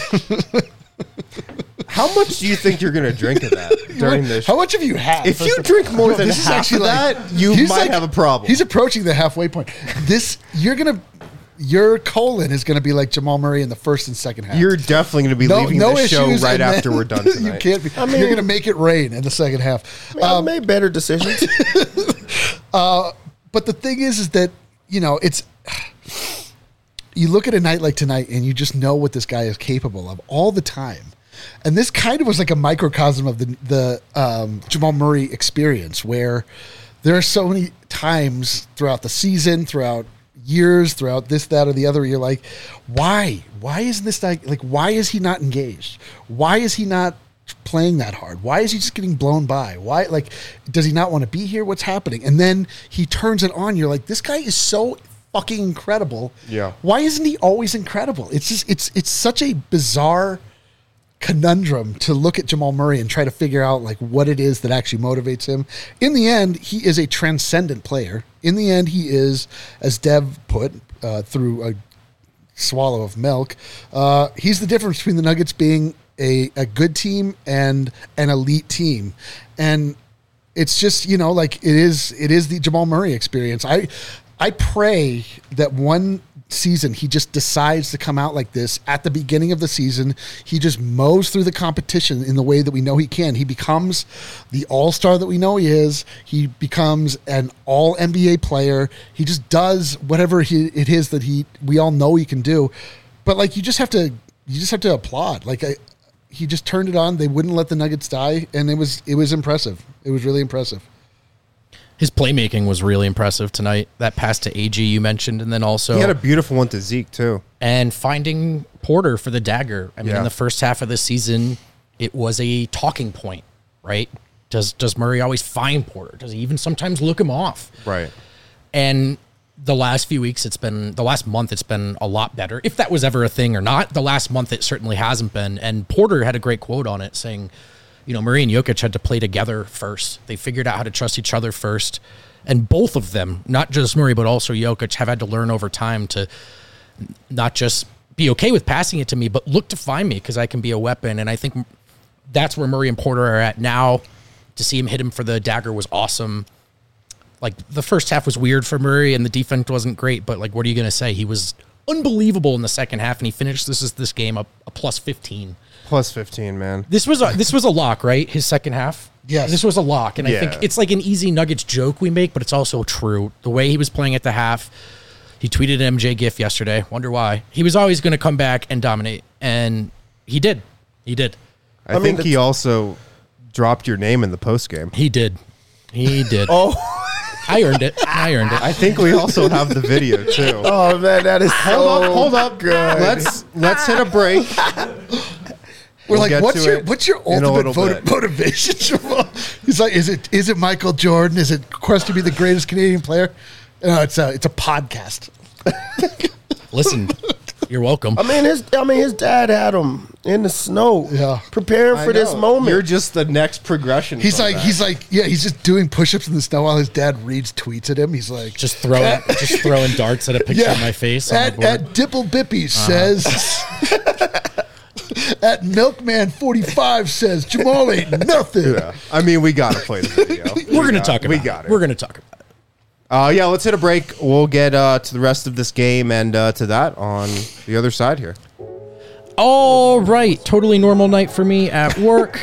How much do you think you're going to drink of that during this? How much have you had? If you drink more than This is half actually of like- that, you he's might like- have a problem. He's approaching the halfway point. This, you're going to, your colon is going to be like Jamal Murray in the first and second half. You're definitely going to be no, leaving no the show issues, right and after then we're done you tonight. can't be, I mean- you're going to make it rain in the second half. I mean, I've made better decisions. But the thing is, is that, you know, it's, you look at a night like tonight and you just know what this guy is capable of all the time. And this kind of was like a microcosm of the, the um, Jamal Murray experience, where there are so many times throughout the season, throughout years, throughout this, that, or the other, you're like, why? Why isn't this guy, like, why is he not engaged? Why is he not playing that hard? Why is he just getting blown by? Why, like, does he not want to be here? What's happening? And then he turns it on. You're like, this guy is so fucking incredible. Yeah. Why isn't he always incredible? It's just, it's, it's such a bizarre conundrum to look at Jamal Murray and try to figure out like what it is that actually motivates him. In the end, he is a transcendent player. In the end, he is, as Dev put, uh, through a swallow of milk, uh, he's the difference between the Nuggets being a, a good team and an elite team. And it's just, you know, like it is, it is the Jamal Murray experience. I, I pray that one season he just decides to come out like this at the beginning of the season. He just mows through the competition in the way that we know he can. He becomes the all-star that we know he is. He becomes an all N B A player. He just does whatever he, it is that he we all know he can do. But like you just have to you just have to applaud. Like I, he just turned it on. They wouldn't let the Nuggets die, and it was it was impressive. It was really impressive. His playmaking was really impressive tonight. That pass to A G you mentioned, and then also He had a beautiful one to Zeke, too. and finding Porter for the dagger. I mean, Yeah. in the first half of the season, it was a talking point, right? Does does Murray always find Porter? Does he even sometimes look him off? Right. And the last few weeks, it's been the last month, it's been a lot better. If that was ever a thing or not, the last month it certainly hasn't been. And Porter had a great quote on it saying, you know, Murray and Jokic had to play together first. They figured out how to trust each other first. And both of them, not just Murray, but also Jokic, have had to learn over time to not just be okay with passing it to me, but look to find me because I can be a weapon. And I think that's where Murray and Porter are at now. To see him hit him for the dagger was awesome. Like, the first half was weird for Murray and the defense wasn't great, but, like, what are you going to say? He was unbelievable in the second half, and he finished this is this game a, a plus fifteen. Plus fifteen, man. This was a, this was a lock, right? His second half? Yes. This was a lock, and I Yeah. think it's like an easy Nuggets joke we make, but it's also true. The way he was playing at the half, he tweeted an M J gif yesterday. Wonder why. He was always going to come back and dominate, and he did. He did. I, I mean, think the- he also dropped your name in the post game. He did. He did. Oh, I earned it. I earned it. I think we also have the video too. oh man, that is hold so up, hold up. good. Let's let's hit a break. We're We'll like, get what's to your it what's your in a ultimate little vot- bit. motivation? Jamal? He's like, is it is it Michael Jordan? Is it quest to be the greatest Canadian player? No, it's a it's a podcast. Listen, You're welcome. I mean, his I mean his dad had him in the snow, Yeah. preparing I for this know. moment. You're just the next progression. He's from like, that. he's like, yeah, he's just doing push-ups in the snow while his dad reads tweets at him. He's like, Just throwing, just throwing darts at a picture yeah, of my face on at, the board. at Dipple Bippy Uh-huh. says, at Milkman forty-five says, Jamal ain't nothing. Yeah. I mean, we gotta play the video. We're gonna got- talk about. We it. got it. We're gonna talk about it. Uh, yeah, let's hit a break. We'll get uh, to the rest of this game and uh, to that on the other side here. All right, totally normal night for me at work.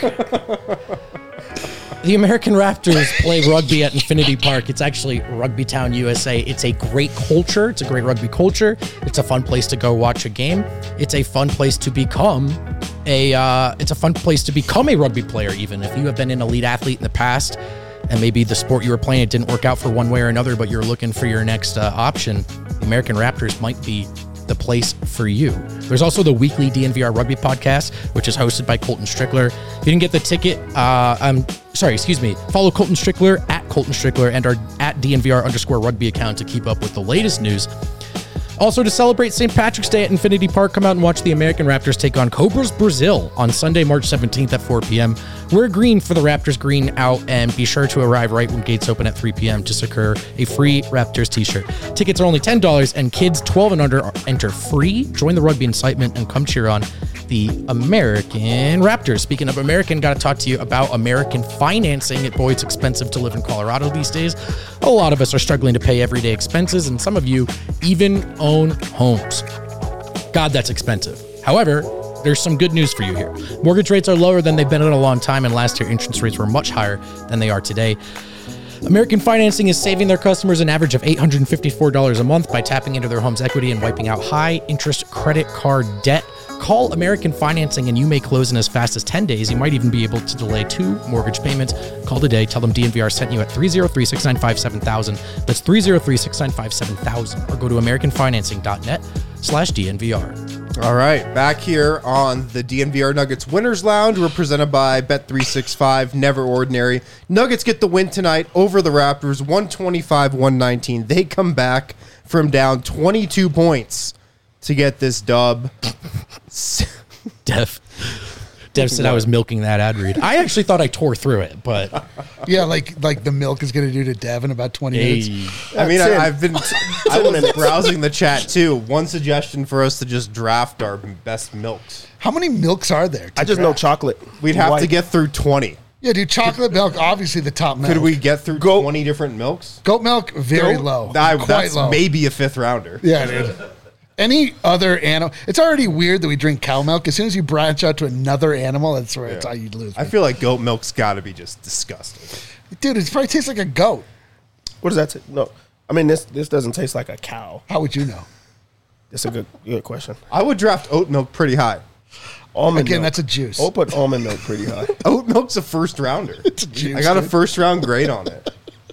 The American Raptors play rugby at Infinity Park. It's actually Rugby Town, U S A. It's a great culture. It's a great rugby culture. It's a fun place to go watch a game. It's a fun place to become a. Uh, it's a fun place to become a rugby player. Even if you have been an elite athlete in the past, and maybe the sport you were playing it didn't work out for one way or another, but you're looking for your next uh, option, the American Raptors might be the place for you. There's also the weekly D N V R Rugby podcast, which is hosted by Colton Strickler. If you didn't get the ticket, uh, I'm sorry, excuse me. Follow Colton Strickler at Colton Strickler and our at D N V R underscore rugby account to keep up with the latest news. Also, to celebrate Saint Patrick's Day at Infinity Park, come out and watch the American Raptors take on Cobras Brazil on Sunday, March seventeenth at four p.m. Wear green for the Raptors green out, and be sure to arrive right when gates open at three p.m. to secure a free Raptors t-shirt. Tickets are only ten dollars, and kids twelve and under enter free. Join the rugby incitement and come cheer on the American Raptors. Speaking of American, got to talk to you about American financing. It, boy, it's expensive to live in Colorado these days. A lot of us are struggling to pay everyday expenses, and some of you even own homes. God, that's expensive. However, there's some good news for you here. Mortgage rates are lower than they've been in a long time, and last year interest rates were much higher than they are today. American Financing is saving their customers an average of eight hundred fifty-four dollars a month by tapping into their home's equity and wiping out high interest credit card debt. Call American Financing and you may close in as fast as ten days. You might even be able to delay two mortgage payments. Call today. Tell them D N V R sent you at three oh three, six nine five, seven thousand. That's three oh three, six nine five, seven thousand. Or go to americanfinancing.net slash DNVR. All right, back here on the D N V R Nuggets Winners Lounge. We're presented by Bet three sixty-five, Never Ordinary. Nuggets get the win tonight over the Raptors, one twenty-five, one nineteen. They come back from down twenty-two points to get this dub. Dev. Dev said I was milking that ad read. I actually thought I tore through it, but Yeah, like like the milk is going to do to Dev in about twenty minutes. hey, I mean, Ten. I, I've been I was browsing the chat too. One suggestion for us to just draft our best milks. How many milks are there? to I just know draft? chocolate. We'd have to White. get through twenty. Yeah, dude, chocolate milk, obviously the top milk. Could we get through Goat- twenty different milks? Goat milk, very Goat? low. I, Quite that's low. maybe a fifth rounder. Yeah, dude. Any other animal? It's already weird that we drink cow milk. As soon as you branch out to another animal, that's where it's how you lose. I me. feel like goat milk's got to be just disgusting. Dude, it probably tastes like a goat. What does that say? No. I mean, this this doesn't taste like a cow. How would you know? It's a good good question. I would draft oat milk pretty high. Almond Again, milk. that's a juice. I'll put almond milk pretty high. Oat milk's a first rounder. It's a juice. I got a dude. first round grade on it.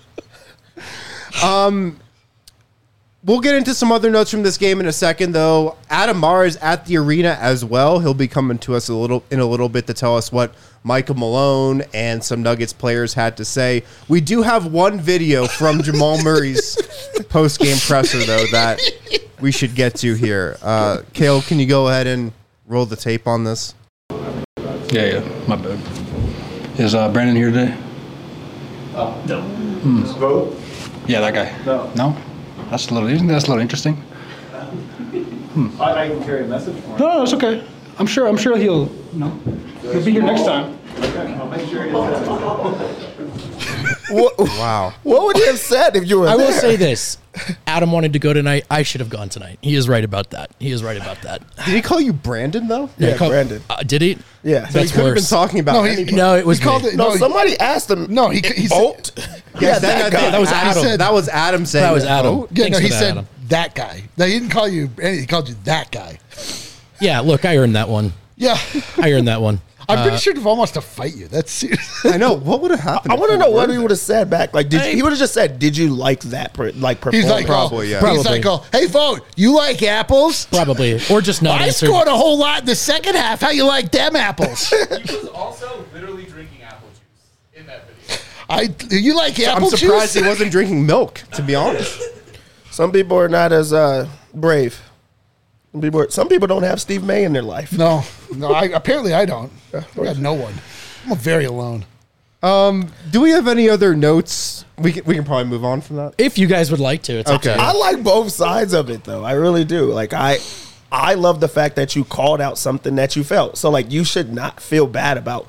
Um, we'll get into some other notes from this game in a second, though. Adam Marr is at the arena as well. He'll be coming to us a little in a little bit to tell us what Michael Malone and some Nuggets players had to say. We do have one video from Jamal Murray's post game presser, though, that we should get to here. Uh, Kale, can you go ahead and roll the tape on this? Yeah, yeah, my bad. Is uh, Brandon here today? Uh, no. Just vote? Yeah, that guy. No. No? That's a little, isn't that a little interesting? I, I can carry a message for him. No, no, it's okay. I'm sure, I'm sure he'll, you know, he'll be here next time. Okay, I'll make sure he does. What, Wow. what would you have said if you were I will there? say this. Adam wanted to go tonight. I should have gone tonight. He is right about that. He is right about that. Did he call you Brandon, though? Yeah, Call- Brandon. Uh, did he? Yeah. So he That's could have been worse. talking about No, he- anybody. No, it was He called me. it. No, he- somebody asked him. No, he- he said- Bolt. Yes, that guy. That was I Adam. said- that was Adam saying That was Adam. Oh, Yeah, Thanks no, he for that, said Adam. that guy. No, he didn't call you. He called you that guy. Yeah, look, I earned that one. Yeah, I earned that one. I'm Uh, pretty sure Duvall wants to fight you. That's serious. I know. What would have happened? I if want to you know what were he there? would have said back. Like, did Hey. he would have just said, "Did you like that?" Per, like, He's performance? like, Probably, oh, yeah. He's Probably. like, oh, hey, vote. You like apples? Probably. Or just not I answer. scored a whole lot in the second half. How you like them apples? He was also literally drinking apple juice in that video. I. You like I'm apple surprised juice? he wasn't drinking milk, to be honest. Some people are not as uh, brave. People are, some people don't have Steve May in their life. No, no. I, apparently, I don't. I got no one. I'm very alone. Um, do we have any other notes? We can, we can probably move on from that. If you guys would like to, it's Okay. okay. I like both sides of it, though. I really do. Like I, I love the fact that you called out something that you felt. So like you should not feel bad about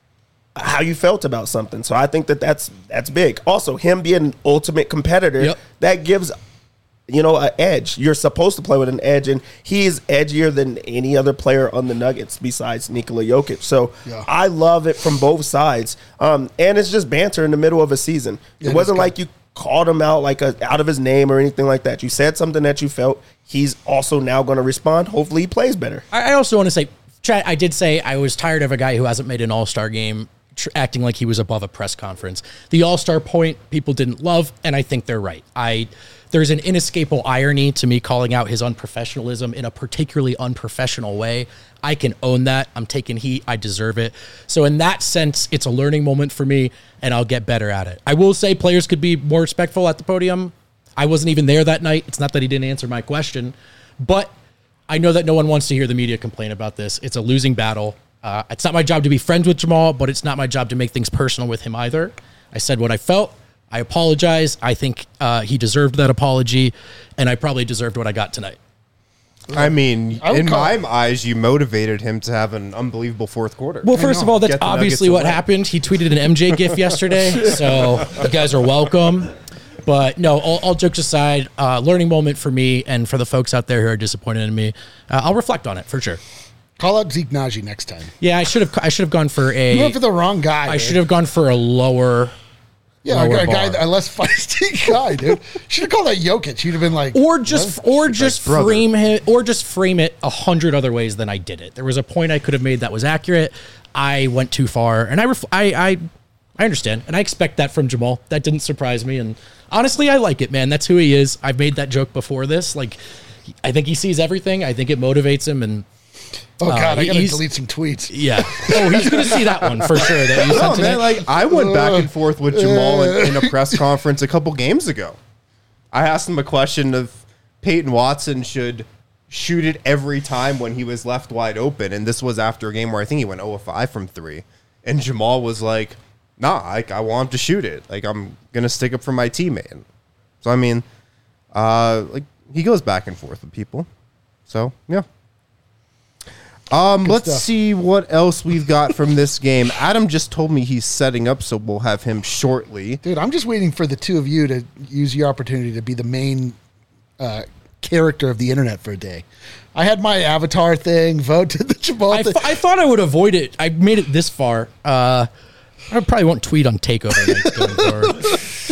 how you felt about something. So I think that that's that's big. Also, him being an ultimate competitor, Yep. that gives, you know, an edge. You're supposed to play with an edge, and he is edgier than any other player on the Nuggets besides Nikola Jokic. So Yeah. I love it from both sides. Um, and it's just banter in the middle of a season. Yeah, it wasn't that's like you called him out like a, out of his name or anything like that. You said something that you felt. He's also now going to respond. Hopefully, he plays better. I I also want to say, Chad, I did say I was tired of a guy who hasn't made an all-star game tr- acting like he was above a press conference. The all-star point people didn't love, and I think they're right. I there's an inescapable irony to me calling out his unprofessionalism in a particularly unprofessional way. I can own that. I'm taking heat. I deserve it. So in that sense, it's a learning moment for me, and I'll get better at it. I will say players could be more respectful at the podium. I wasn't even there that night. It's not that he didn't answer my question, but I know that no one wants to hear the media complain about this. It's a losing battle. Uh, it's not my job to be friends with Jamal, but it's not my job to make things personal with him either. I said what I felt. I apologize. I think uh, he deserved that apology, and I probably deserved what I got tonight. I mean, I would in call- my eyes, you motivated him to have an unbelievable fourth quarter. Well, first of all, that's Get the obviously Nuggets what away. happened. He tweeted an M J gif yesterday, so you guys are welcome. But no, all, all jokes aside, uh, learning moment for me and for the folks out there who are disappointed in me. Uh, I'll reflect on it for sure. Call out Zeke Naji next time. Yeah, I should have. I should have gone for a. You went for the wrong guy. I dude. should have gone for a lower. Yeah, a, lower guy- a guy, bar. a less feisty guy, dude. Should have called that Jokic. He'd have been like, Or just, or just brother. frame him, or just frame it a hundred other ways than I did it. There was a point I could have made that was accurate. I went too far, and I, ref- I, I, I understand, and I expect that from Jamal. That didn't surprise me, and honestly, I like it, man. That's who he is. I've made that joke before this. Like, I think he sees everything. I think it motivates him, and oh God, Uh, I gotta he's- delete some tweets. yeah. Oh, he's gonna see that one for sure. That you No, sent man, tonight. like I went back and forth with Jamal in, in a press conference a couple games ago. I asked him a question of Peyton Watson should shoot it every time when he was left wide open, and this was after a game where I think he went zero of five from three, and Jamal was like, "Nah, I, I want him to shoot it. Like I'm gonna stick up for my teammate." So I mean, uh, like he goes back and forth with people. So yeah. Um, let's stuff. see what else we've got from this game. Adam just told me he's setting up, so we'll have him shortly. Dude, I'm just waiting for the two of you to use your opportunity to be the main uh, character of the internet for a day. I had my avatar thing, vote to the Jamal I, thing. th- I thought I would avoid it. I made it this far. Uh, I probably won't tweet on Takeover nights going forward.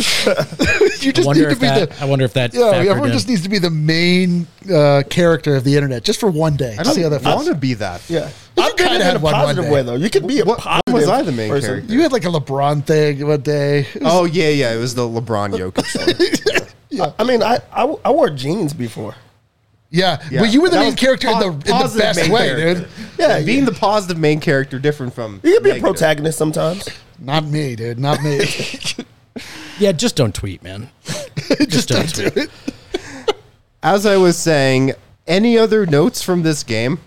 you I just wonder need to if be that. the I wonder if that. yeah. factored Everyone in. just needs to be the main uh, character of the internet just for one day. I Just see how don't that want feels. to be that. Yeah. You I did kinda it had in a one one positive day. way, though. You could be a What- when positive was I the main person. character? You had like a LeBron thing one day. It was- Oh yeah, yeah. It was the LeBron Jokic one. I mean, I, I I wore jeans before. yeah. Yeah. Well, you were the That main was character in the, po- in the positive best main way, character. dude. Yeah, being yeah. the positive main character different from You could be a negative. protagonist sometimes. Not me, dude. Not me. Yeah, just don't tweet, man. just don't do it. As I was saying, any other notes from this game?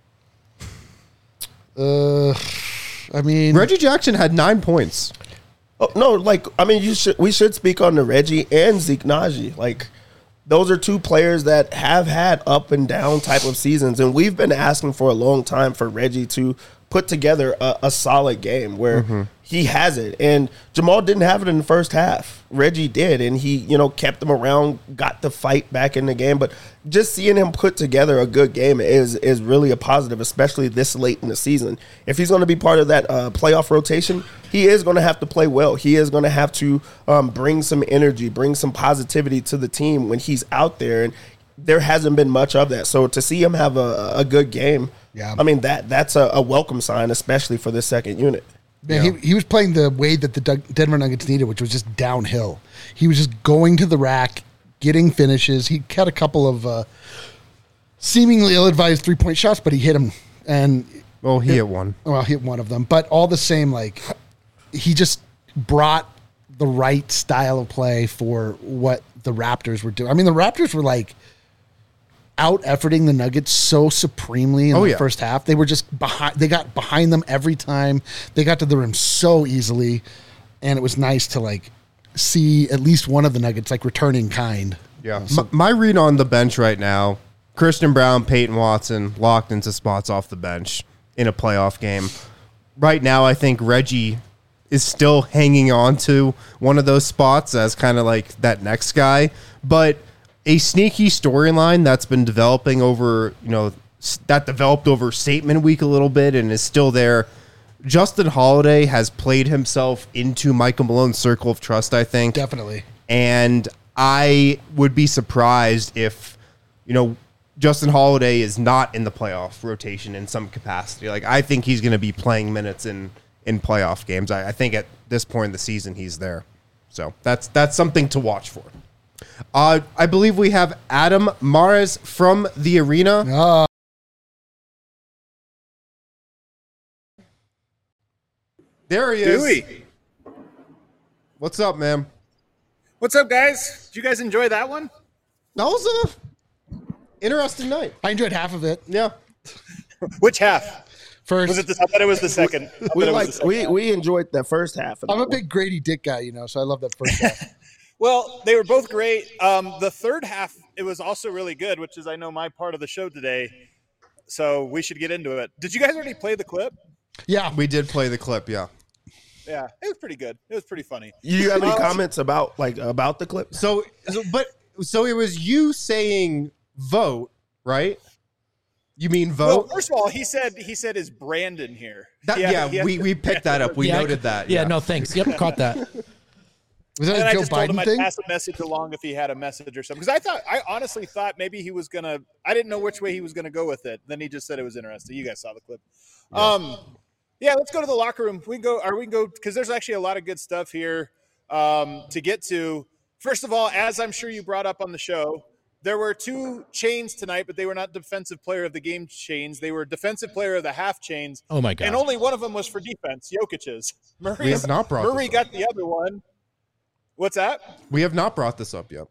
Uh, I mean, Reggie Jackson had nine points. Oh, no, like I mean, you should we should speak on the Reggie and Zeke Naji. Like those are two players that have had up and down type of seasons, and we've been asking for a long time for Reggie to put together a, a solid game where he has it. And Jamal didn't have it in the first half. Reggie did, and he, you know, kept him around, got the fight back in the game. But just seeing him put together a good game is is really a positive, especially this late in the season. If he's going to be part of that uh, playoff rotation, he is going to have to play well. He is going to have to um, bring some energy, bring some positivity to the team when he's out there. And there hasn't been much of that. So to see him have a, a good game, Yeah. I mean, that that's a, a welcome sign, especially for this second unit. Man, he, he was playing the way that the Dug- Denver Nuggets needed, which was just downhill. He was just going to the rack, getting finishes. He had a couple of uh, seemingly ill-advised three-point shots, but he hit them. And Well, he hit one. well, he hit one of them. But all the same, like he just brought the right style of play for what the Raptors were doing. I mean, the Raptors were like out efforting the Nuggets so supremely in Oh, the yeah. first half. They were just behind. They got behind them every time. They got to the rim so easily, and it was nice to like see at least one of the Nuggets like returning kind. Yeah. My, my read on the bench right now, Christian Brown, Peyton Watson locked into spots off the bench in a playoff game. Right now, I think Reggie is still hanging on to one of those spots as kind of like that next guy. But a sneaky storyline that's been developing over, you know, s- that developed over Statement Week a little bit and is still there. Justin Holiday has played himself into Michael Malone's circle of trust, I think. Definitely. And I would be surprised if, you know, Justin Holiday is not in the playoff rotation in some capacity. Like, I think he's going to be playing minutes in, in playoff games. I, I think at this point in the season, he's there. So that's that's something to watch for. Uh, I believe we have Adam Mares from the arena. Uh, There he is. Dewey. What's up, man? What's up, guys? Did you guys enjoy that one? That was a interesting night. I enjoyed half of it. Yeah. Which half? First, Was it? The, I thought it was the second. I thought We it was like the second we half. we enjoyed that first half. Of I'm that a big Grady Dick guy, you know, so I love that first half. Well, they were both great. Um, the third half, it was also really good, which is I know my part of the show today. So we should get into it. Did you guys already play the clip? Yeah, We did play the clip, yeah. Yeah, it was pretty good. It was pretty funny. You have any Uh, comments about like about the clip? So, so, but so it was you saying vote, right? You mean Well, vote? first of all, he said he said is Brandon here? That, He had- yeah, he had- we, we picked that up. We Yeah, I- noted that. Yeah, no, thanks. Yep, caught that. was that And a I Joe just told him Biden I'd thing? pass a message along if he had a message or something. Because I thought, I honestly thought maybe he was gonna. I didn't know which way he was gonna go with it. Then he just said it was interesting. You guys saw the clip. Um, yeah, let's go to the locker room. We can go, or we can go because there's actually a lot of good stuff here um, to get to. First of all, as I'm sure you brought up on the show, there were two chains tonight, but they were not defensive player of the game chains. They were defensive player of the half chains. Oh my god. And only one of them was for defense, Jokic's. Murray's, We have not brought Murray this up. got the other one. What's that? We have not brought this up yet.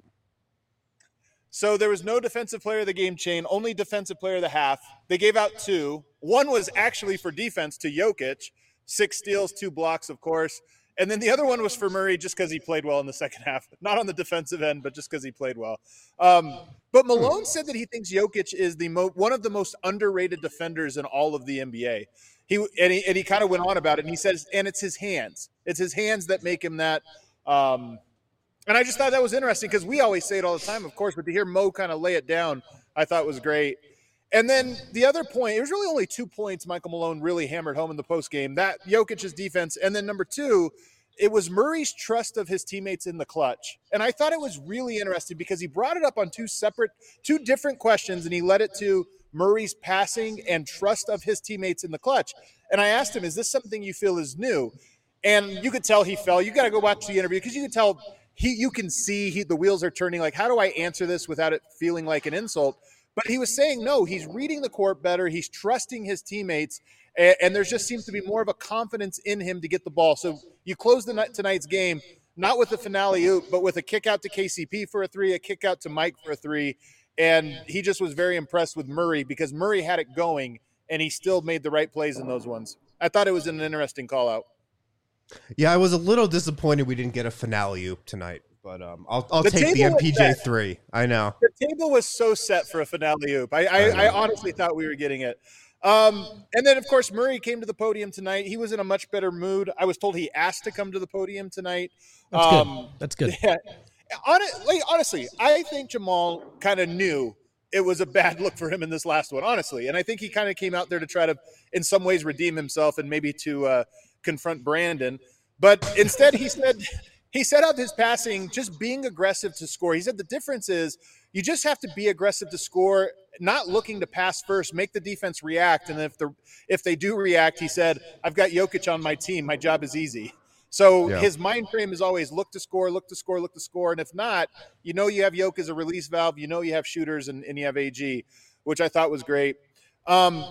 So there was no defensive player of the game chain, only defensive player of the half. They gave out two. One was actually for defense to Jokic, six steals, two blocks, of course. And then the other one was for Murray just because he played well in the second half. Not on the defensive end, but just because he played well. Um, but Malone said that he thinks Jokic is the mo- one of the most underrated defenders in all of the N B A. He and he, and he kind of went on about it, and he says, and it's his hands. It's his hands that make him that. Um, and I just thought that was interesting because we always say it all the time, of course, but to hear Mo kind of lay it down, I thought was great. And then the other point, it was really only two points Michael Malone really hammered home in the postgame. That Jokic's defense, and then number two, it was Murray's trust of his teammates in the clutch. And I thought it was really interesting because he brought it up on two separate, two different questions, and he led it to Murray's passing and trust of his teammates in the clutch. And I asked him, is this something you feel is new? And you could tell he fell. You got to go watch the interview because you can tell he, you can see he, the wheels are turning. Like, how do I answer this without it feeling like an insult? But he was saying, no, he's reading the court better. He's trusting his teammates. And, and there just seems to be more of a confidence in him to get the ball. So you close the night, tonight's game, not with the finale oop, but with a kick out to K C P for a three, a kick out to Mike for a three. And he just was very impressed with Murray because Murray had it going and he still made the right plays in those ones. I thought it was an interesting call out. Yeah, I was a little disappointed we didn't get a finale oop tonight, but um, I'll I'll The take the table M was P J set. three. I know. The table was so set for a finale oop. I, I, I honestly thought we were getting it. Um, and then, of course, Murray came to the podium tonight. He was in a much better mood. I was told he asked to come to the podium tonight. That's Um, good. That's good. Yeah. Honestly, honestly, I think Jamal kind of knew it was a bad look for him in this last one, honestly. And I think he kind of came out there to try to, in some ways, redeem himself and maybe to uh, confront Brandon. But instead, he said he set out his passing, just being aggressive to score. He said the difference is you just have to be aggressive to score, not looking to pass first, make the defense react. And if the if they do react, he said, I've got Jokic on my team. My job is easy. So Yeah. his mind frame is always look to score, look to score, look to score. And if not, you know you have Jokic as a release valve. You know you have shooters and, and you have A G, which I thought was great. Um,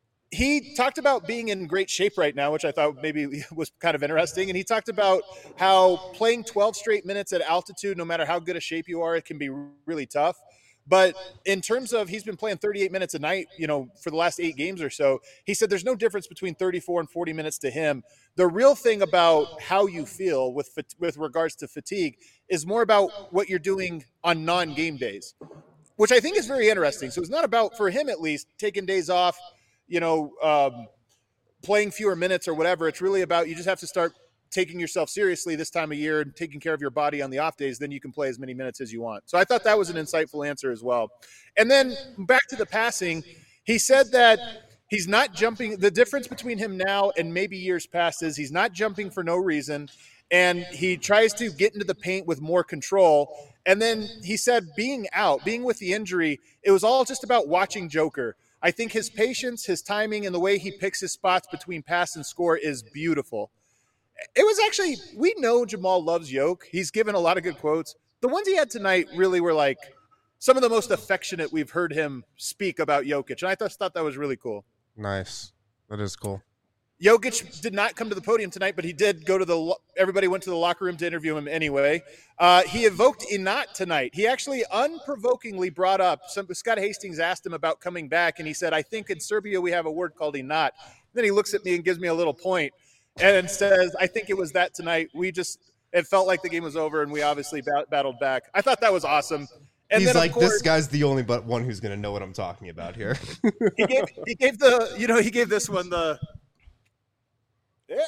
he talked about being in great shape right now, which I thought maybe was kind of interesting. And he talked about how playing twelve straight minutes at altitude, no matter how good a shape you are, it can be really tough. But in terms of he's been playing thirty-eight minutes a night, you know, for the last eight games or so, he said there's no difference between thirty-four and forty minutes to him. The real thing about how you feel with with regards to fatigue is more about what you're doing on non-game days, which I think is very interesting. So it's not about, for him at least, taking days off, you know, um, playing fewer minutes or whatever. It's really about you just have to start taking yourself seriously this time of year and taking care of your body on the off days, then you can play as many minutes as you want. So I thought that was an insightful answer as well. And then back to the passing, he said that he's not jumping. The difference between him now and maybe years past is he's not jumping for no reason. And he tries to get into the paint with more control. And then he said being out, being with the injury, it was all just about watching Joker. I think his patience, his timing, and the way he picks his spots between pass and score is beautiful. It was actually, we know Jamal loves Yoke. He's given a lot of good quotes. The ones he had tonight really were like some of the most affectionate we've heard him speak about Jokic. And I thought, thought that was really cool. Nice. That is cool. Jokic did not come to the podium tonight, but he did go to the – everybody went to the locker room to interview him anyway. Uh, he evoked Inat tonight. He actually unprovokingly brought up – some Scott Hastings asked him about coming back, and he said, I think in Serbia we have a word called Inat. Then he looks at me and gives me a little point and says, I think it was that tonight. We just – it felt like the game was over, and we obviously bat- battled back. I thought that was awesome. And He's then, like, course, this guy's the only but one who's going to know what I'm talking about here. he gave he gave the – you know, he gave this one the – yeah.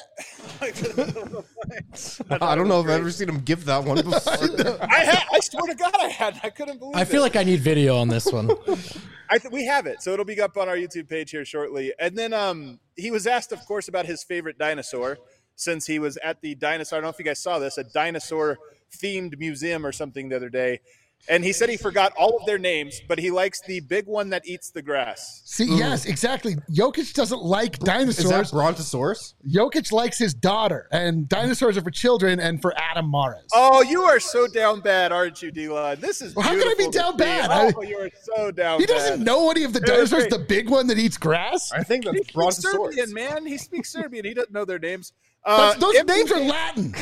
I don't know if I've ever seen him give that one before. I had, I swear to God, I had. I couldn't believe it. I feel like I need video on this one. I th- we have it, so it'll be up on our YouTube page here shortly. And then um, he was asked, of course, about his favorite dinosaur, since he was at the dinosaur. I don't know if you guys saw this, a dinosaur-themed museum or something the other day. And he said he forgot all of their names, but he likes the big one that eats the grass. See, mm. yes, exactly. Jokic doesn't like dinosaurs. Is that Brontosaurus? Jokic likes his daughter, and dinosaurs are for children and for Adam Mares. Oh, you are so down bad, aren't you, D-Line? This is well, how can I be down bad? Oh, you are so down he bad. He doesn't know any of the dinosaurs, the big one that eats grass? I think that's he Brontosaurus. Serbian, man. He speaks Serbian. He doesn't know their names. Uh, those M- names are Latin.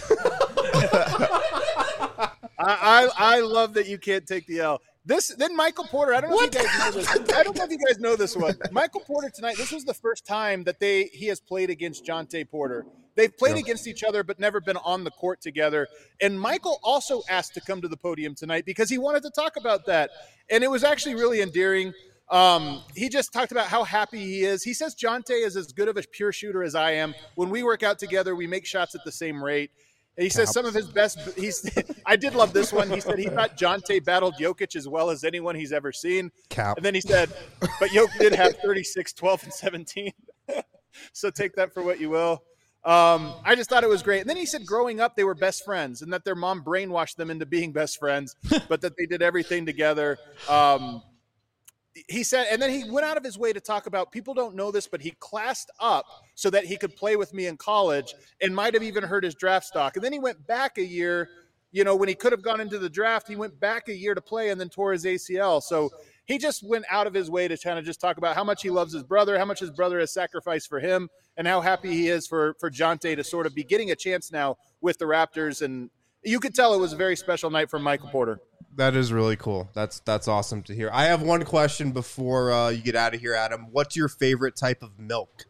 I, I I love that you can't take the L. This then Michael Porter. I don't know what? if you guys know this. I don't know if you guys know this one. Michael Porter tonight. This was the first time that they he has played against Jonte Porter. They've played yeah. against each other, but never been on the court together. And Michael also asked to come to the podium tonight because he wanted to talk about that, and it was actually really endearing. Um, he just talked about how happy he is. He says Jonte is as good of a pure shooter as I am. When we work out together, we make shots at the same rate. And he says Cap. some of his best – He's. I did love this one. He said he thought Jonte battled Jokic as well as anyone he's ever seen. Cap. And then he said, but Jokic did have thirty-six, twelve, and seventeen. So take that for what you will. Um, I just thought it was great. And then he said growing up they were best friends and that their mom brainwashed them into being best friends, but that they did everything together. Um He said, and then he went out of his way to talk about, people don't know this, but he classed up so that he could play with me in college and might have even hurt his draft stock. And then he went back a year, you know, when he could have gone into the draft, he went back a year to play and then tore his A C L. So he just went out of his way to kind of just talk about how much he loves his brother, how much his brother has sacrificed for him, and how happy he is for, for Jonte to sort of be getting a chance now with the Raptors. And you could tell it was a very special night for Michael Porter. That is really cool. That's that's awesome to hear. I have one question before uh, you get out of here, Adam. What's your favorite type of milk?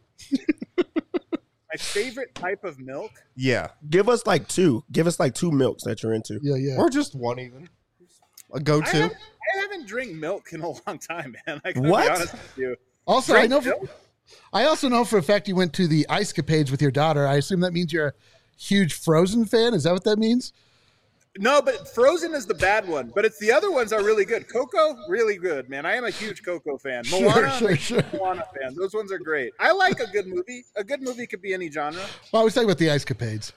My favorite type of milk? Yeah. Give us like two. Give us like two milks that you're into. Yeah, yeah. Or just one even. A go-to. I haven't, I haven't drank milk in a long time, man. I gotta what? be honest with you. Also, Drink I know. For, milk? I also know for a fact you went to the Ice Capades with your daughter. I assume that means you're a huge Frozen fan. Is that what that means? No, but Frozen is the bad one. But it's the other ones are really good. Coco, really good, man. I am a huge Coco fan. Moana, sure, sure, sure. Moana fan. Those ones are great. I like a good movie. A good movie could be any genre. Well, I was talking about the Ice Capades.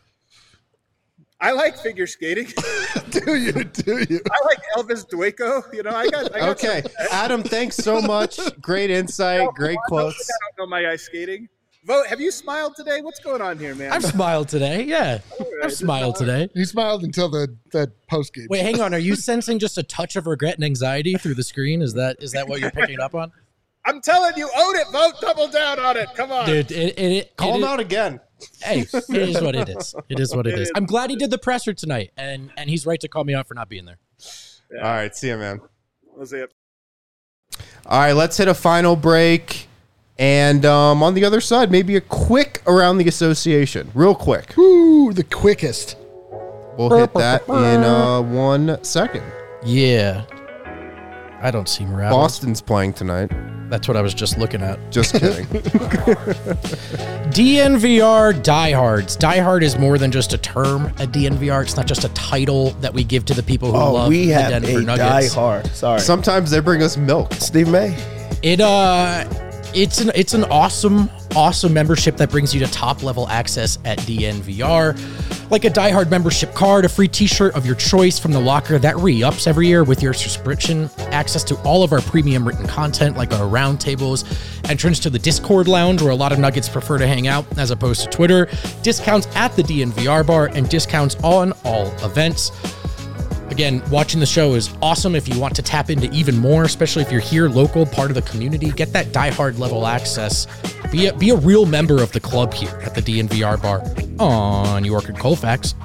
I like figure skating. do you? Do you? I like Elvis Dueco. You know, I got. I got okay, Adam. Thanks so much. Great insight. No, great on, quotes. I don't know my ice skating. Vote. Have you smiled today? What's going on here, man? I've smiled today. Yeah, right, I've smiled today. He smiled until the the post game. Wait, hang on. Are you sensing just a touch of regret and anxiety through the screen? Is that is that what you're picking up on? I'm telling you, own it. Vote. Double down on it. Come on, dude. It, it, it, Call it, him out again. Hey, it is what it is. It is what it, it is. is. I'm glad he did the presser tonight, and and he's right to call me out for not being there. Yeah. All right, see you, man. We'll see it. All right, let's hit a final break. And um, on the other side, maybe a quick around the association. Real quick. Ooh, the quickest. We'll hit that in uh, one second. Yeah. I don't seem rattled. Boston's playing tonight. That's what I was just looking at. Just kidding. D N V R diehards. Diehard is more than just a term at D N V R. It's not just a title that we give to the people who Oh, love we the have Denver a Nuggets. die hard. Sorry. Sometimes they bring us milk. Steve May. It uh it's an it's an awesome awesome membership that brings you to top level access at D N V R, like a diehard membership card, a free t-shirt of your choice from the locker that re-ups every year with your subscription, access to all of our premium written content like our roundtables, entrance to the Discord lounge where a lot of Nuggets prefer to hang out as opposed to Twitter, discounts at the D N V R bar, and discounts on all events. Again, watching the show is awesome if you want to tap into even more, especially if you're here local, part of the community. Get that diehard level access. Be a, be a real member of the club here at the D N V R bar on York and Colfax.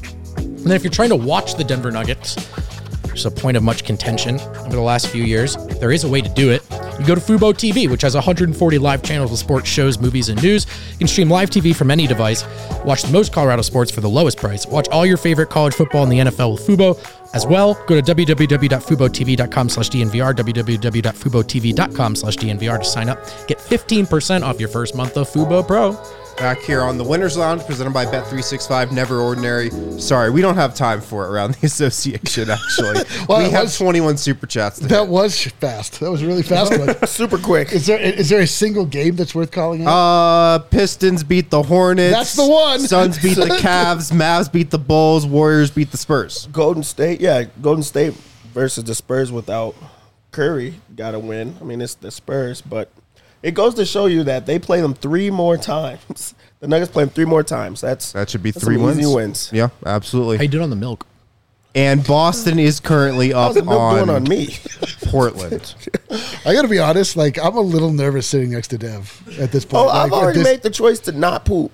And then if you're trying to watch the Denver Nuggets, which is a point of much contention over the last few years, there is a way to do it. You go to Fubo T V, which has one hundred forty live channels of sports, shows, movies, and news. You can stream live T V from any device. Watch the most Colorado sports for the lowest price. Watch all your favorite college football and the N F L with Fubo. As well, go to w w w dot fubo t v dot com slash d n v r, w w w dot fubo t v dot com slash d n v r to sign up. Get fifteen percent off your first month of Fubo Pro. Back here on the Winners Lounge, presented by Bet three sixty-five, Never Ordinary. Sorry, we don't have time for it around the association, actually. Well, we it have was- twenty-one super chats. To That hit. was fast. That was a really fast one. Super quick. Is there is there a single game that's worth calling out? Uh, Pistons beat the Hornets. That's the one. Suns beat the Cavs. Mavs beat the Bulls. Warriors beat the Spurs. Golden State, yeah, Golden State versus the Spurs without Curry got to win. I mean, it's the Spurs, but it goes to show you that they play them three more times. The Nuggets play them three more times. That's That should be that's three some wins. easy wins. Yeah, absolutely. How you doing on the milk? And Boston is currently up How's the milk on, doing on me? Portland. I got to be honest. Like, I'm a little nervous sitting next to Dev at this point. Oh, Like, I've already this- made the choice to not poop.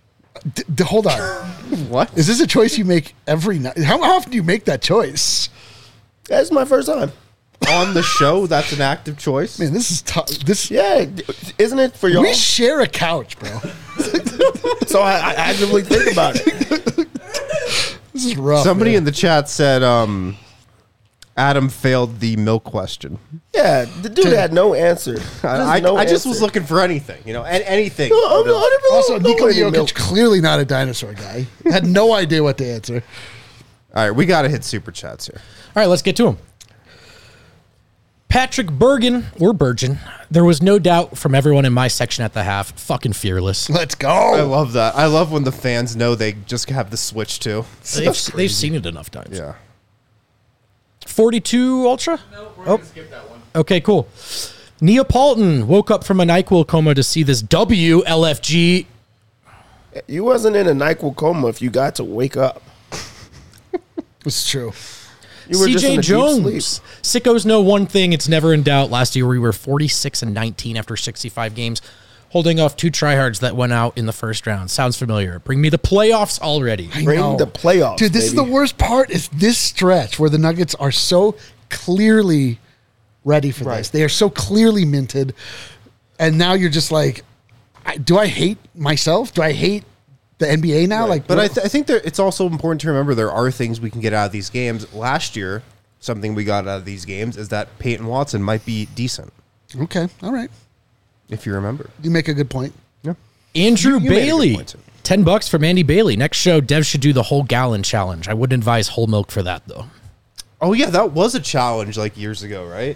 D- d- hold on. What? Is this a choice you make every night? How often do you make that choice? That's my first time. On the show, that's an active choice. Man, this is tough. This Yeah, isn't it for y'all? we share a couch, bro. So I, I actively think about it. This is rough. Somebody man. in the chat said um, Adam failed the milk question. Yeah, the dude had no answer. Just I, I, no I just was answer. looking for anything, you know, and anything. No, I'm not- I don't Also, know Nikola any Jokic, milk. clearly not a dinosaur guy. Had no idea what to answer. All right, we got to hit super chats here. All right, let's get to him. Patrick Bergen, or Bergen, there was no doubt from everyone in my section at the half, fucking fearless. Let's I go. love that. I love when the fans know they just have the switch too. They've, they've seen it enough times. Yeah. forty-two Ultra? No, we're Oh. gonna skip that one. Okay, cool. Neapolitan woke up from a NyQuil coma to see this W L F G. You wasn't in a NyQuil coma if you got to wake up. It's true. You were just in C J a deep Jones. sleep. Sickos know one thing, it's never in doubt. Last year we were forty-six and nineteen after sixty-five games, holding off two tryhards that went out in the first round. Sounds familiar. Bring me the playoffs already. I Bring know. the playoffs, Dude, this is baby. the worst part is this stretch where the Nuggets are so clearly ready for Right. this. They are so clearly minted. And now you're just like, I, do I hate myself? Do I hate the N B A now? Like, But I, what- th- I think there, it's also important to remember there are things we can get out of these games. Last year, something we got out of these games is that Peyton Watson might be decent, okay, all right. if you remember. You make a good point. Yeah. Andrew You- you made a good Bailey. point, too. ten bucks from Andy Bailey. Next show, Dev should do the whole gallon challenge. I wouldn't advise whole milk for that, though. Oh, yeah, that was a challenge like years ago, right?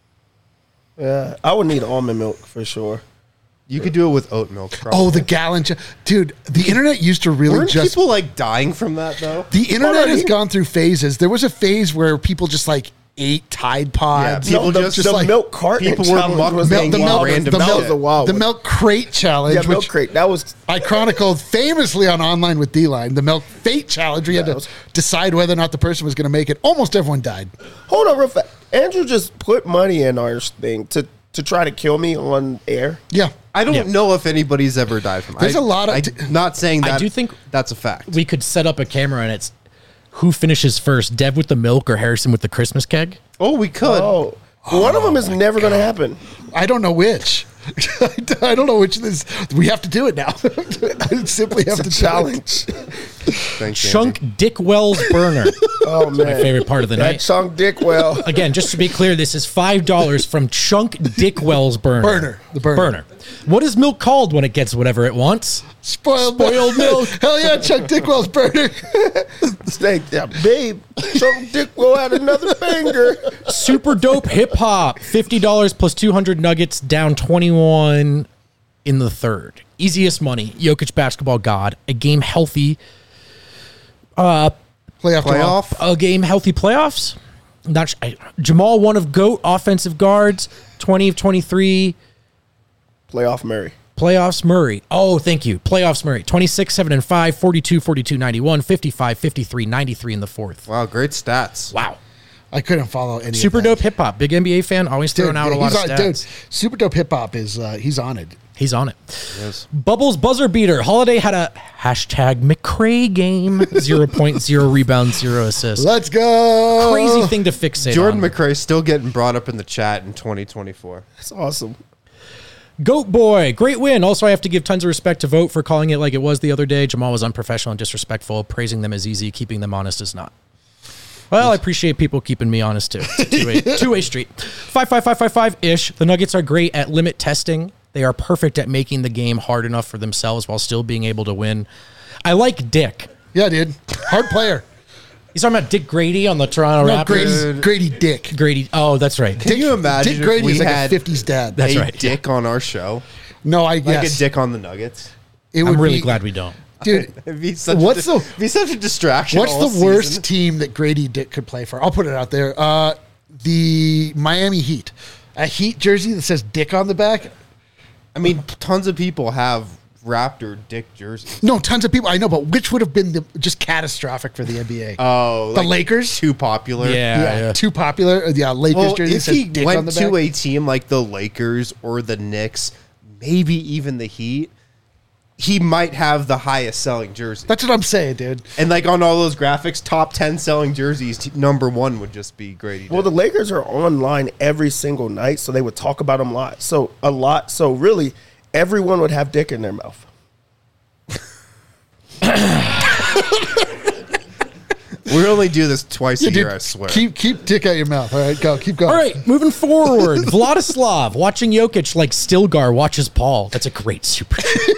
Yeah, I would need almond milk for sure. You could do it with oat milk, probably. Oh, the gallon. Ch- Dude, the internet used to really Weren't just. people, like, dying from that, though? the internet Hold on, has he- gone through phases. There was a phase where people just like ate Tide Pods. Yeah, people the, just- the like- milk carton people were challenge was mukbanging the the milk, wildest- random the that milk, was a wild the one. milk crate challenge, Yeah, milk which crate. That was I chronicled famously on Online with D-Line, the milk fate challenge. We had that to was- decide whether or not the person was going to make it. Almost everyone died. hold on real fast. Andrew just put money in our thing to to try to kill me on air. Yeah. I don't Yeah. know if anybody's ever died from it. There's I- a lot of- I'm not saying I that. do think that's a fact. We could set up a camera and it's who finishes first, Dev with the milk or Harrison with the Christmas keg? Oh, we could. Oh, one of them is never going to happen. I don't know which. I don't know which this. We have to do it now. I simply have to Challenge. Thanks, Chunk Andy. Dick Wells burner. Oh man, My favorite part of the that night. Chunk Dickwell. Again, just to be clear, this is five dollars from Chunk Dick Wells burner. Burner. The burner. Burner. What is milk called when it gets whatever it wants? Spoiled, Spoiled milk. Hell yeah, Chuck Dickwell's burner. Snake, yeah, babe. Chunk Dickwell had another banger. Super dope hip hop. fifty dollars plus two hundred nuggets, down twenty-one in the third. Easiest money. Jokic basketball god. A game healthy. Uh, Playoff. Playoff. a game healthy playoffs. Not I, Jamal, one of GOAT offensive guards. twenty of twenty-three. Playoff Murray. Playoffs Murray. Oh, thank you. Playoffs Murray. twenty-six, seven, and five, forty-two, forty-two, ninety-one, fifty-five, fifty-three, ninety-three in the fourth. Wow, great stats. Wow. I couldn't follow any. Super of that. dope hip hop. Big N B A fan. Always Dude, throwing out yeah, a lot he's of on, stats. Dude, super dope hip hop is uh, he's on it. He's on it. Yes. Bubbles buzzer beater. Holiday had a hashtag McRae game. zero point zero rebounds, zero assists. Let's go. Crazy thing to fixate Jordan on. McRae still getting brought up in the chat in twenty twenty-four. That's awesome. Goat boy. Great win. Also, I have to give tons of respect to Vote for calling it like it was the other day. Jamal was unprofessional and disrespectful. Praising them is easy. Keeping them honest is not. Well, I appreciate people keeping me honest too. It's a two-way, two-way street. Five, five, five, five, five-ish. The Nuggets are great at limit testing. They are perfect at making the game hard enough for themselves while still being able to win. I like Dick. Yeah, dude. Hard player. He's talking about Dick Grady on the Toronto No, Raptors. Grady, Grady Dick. Grady. Oh, that's right. Can you imagine Dick if Grady we is like had a fifties dad. That's a right. dick on our show? no, I Like yes. a dick on the Nuggets? It would I'm really be- glad we don't. dude. It'd be such What's a, the- it'd be such a distraction. What's all the worst season. team that Grady Dick could play for? I'll put it out there. Uh, the Miami Heat. A Heat jersey that says Dick on the back. I mean, tons of people have Raptor dick jerseys. No, tons of people. I know, but which would have been the, just catastrophic for the N B A? Oh, the like Lakers. too popular. Yeah. yeah, too popular. Uh, Yeah, Lakers Well, jersey that if says he Dick on went the to back. a team like the Lakers or the Knicks, maybe even the Heat, he might have the highest selling jersey. That's what I'm saying, dude. And like on all those graphics, top ten selling jerseys, t- number one would just be Grady. Well, the Lakers are online every single night, so they would talk about them a lot. So a lot. So really, everyone would have dick in their mouth. We only do this twice Yeah, a year, dude, I swear. Keep keep Dick out your mouth. All right, go. Keep going. All right, moving forward. Vladislav watching Jokic like Stilgar watches Paul. That's a great super.